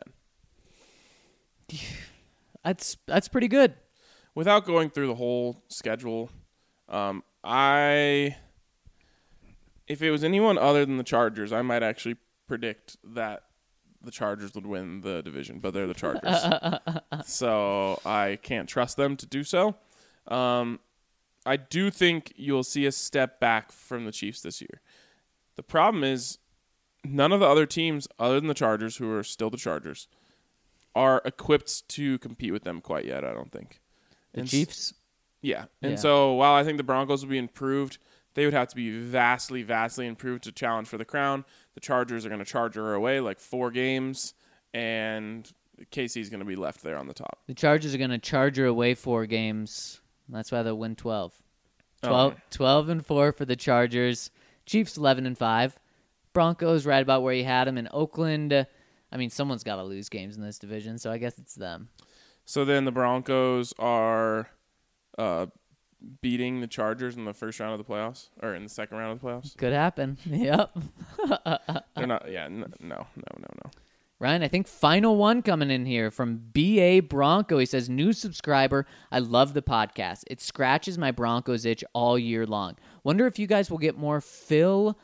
That's that's pretty good. Without going through the whole schedule, um, I if it was anyone other than the Chargers, I might actually predict that the Chargers would win the division, but they're the Chargers. So I can't trust them to do so. Um, I do think you'll see a step back from the Chiefs this year. The problem is none of the other teams, other than the Chargers, who are still the Chargers, are equipped to compete with them quite yet, I don't think. The and Chiefs? Yeah. And Yeah. so while I think the Broncos will be improved, they would have to be vastly, vastly improved to challenge for the crown. The Chargers are going to charge her away like four games, and K C's going to be left there on the top. The Chargers are going to charge her away four games. That's why they'll win twelve. twelve, Oh. twelve and four for the Chargers. Chiefs eleven and five. Broncos right about where you had them. In Oakland, uh, I mean, someone's got to lose games in this division, so I guess it's them. So then the Broncos are uh, beating the Chargers in the first round of the playoffs, or in the second round of the playoffs. Could happen. Yep. They're not. Yeah. No. No. No. No. no. Ryan, I think final one coming in here from B A Bronco. He says, new subscriber. I love the podcast. It scratches my Broncos itch all year long. Wonder if you guys will get more Phil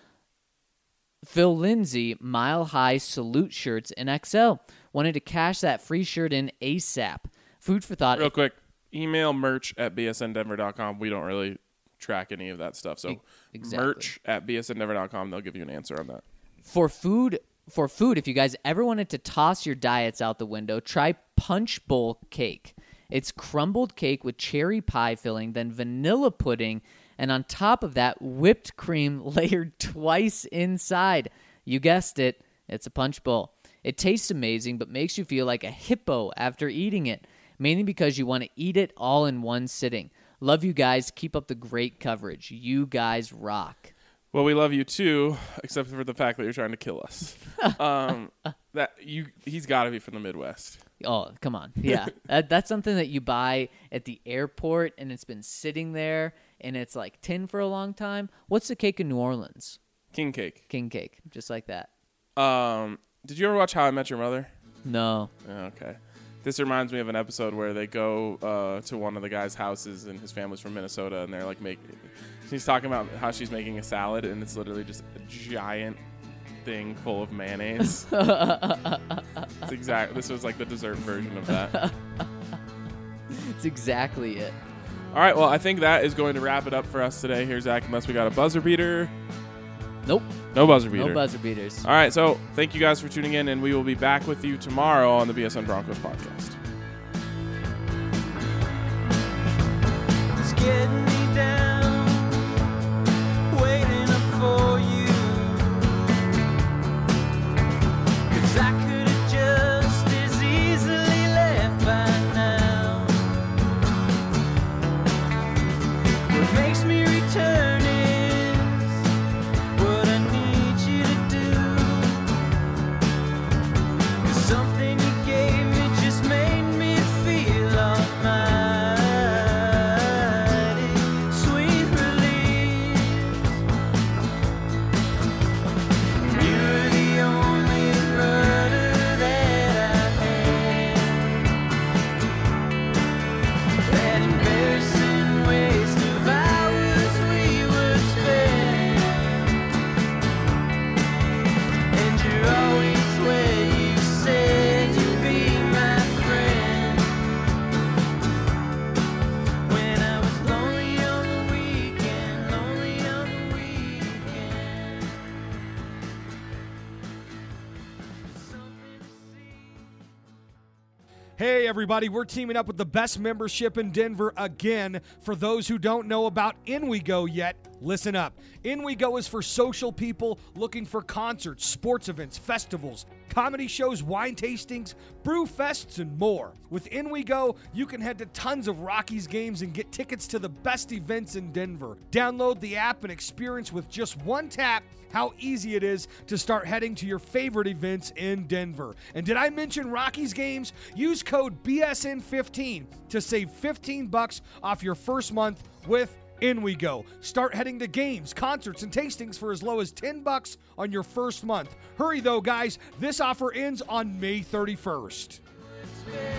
Phil Lindsay Mile High Salute shirts in X L. Wanted to cash that free shirt in ASAP. Food for thought. Real quick, email merch at b s n denver dot com. We don't really track any of that stuff. So Exactly. merch at b s n denver dot com. They'll give you an answer on that. For food, for food, if you guys ever wanted to toss your diets out the window, try Punch Bowl cake. It's crumbled cake with cherry pie filling, then vanilla pudding, and on top of that, whipped cream layered twice inside. You guessed it, it's a Punch Bowl. It tastes amazing, but makes you feel like a hippo after eating it, mainly because you want to eat it all in one sitting. Love you guys. Keep up the great coverage. You guys rock. Well, we love you too, except for the fact that you're trying to kill us. um, that you, he's got to be from the Midwest. Oh, come on. Yeah. that, that's something that you buy at the airport, and it's been sitting there, and it's like tin for a long time. What's the cake in New Orleans? King cake. King cake. Just like that. Um, did you ever watch How I Met Your Mother? No. Okay. This reminds me of an episode where they go uh, to one of the guy's houses, and his family's from Minnesota, and they're like making. He's talking about how she's making a salad, and it's literally just a giant thing full of mayonnaise. It's exact. This was like the dessert version of that. It's exactly it. All right. Well, I think that is going to wrap it up for us today. Here, Zach. Unless we got a buzzer beater. Nope. No buzzer beater. No buzzer beaters. All right. So thank you guys for tuning in, and we will be back with you tomorrow on the B S N Broncos podcast. It's getting me down, waiting up for Hey everybody, we're teaming up with the best membership in Denver again. For those who don't know about In We Go yet, listen up. In We Go is for social people looking for concerts, sports events, festivals, comedy shows, wine tastings, brew fests, and more. With In We Go, you can head to tons of Rockies games and get tickets to the best events in Denver. Download the app and experience with just one tap how easy it is to start heading to your favorite events in Denver. And did I mention Rockies games? Use code B S N fifteen to save fifteen bucks off your first month with In We Go. Start heading to games, concerts, and tastings for as low as ten bucks on your first month. Hurry though, guys. This offer ends on May thirty-first.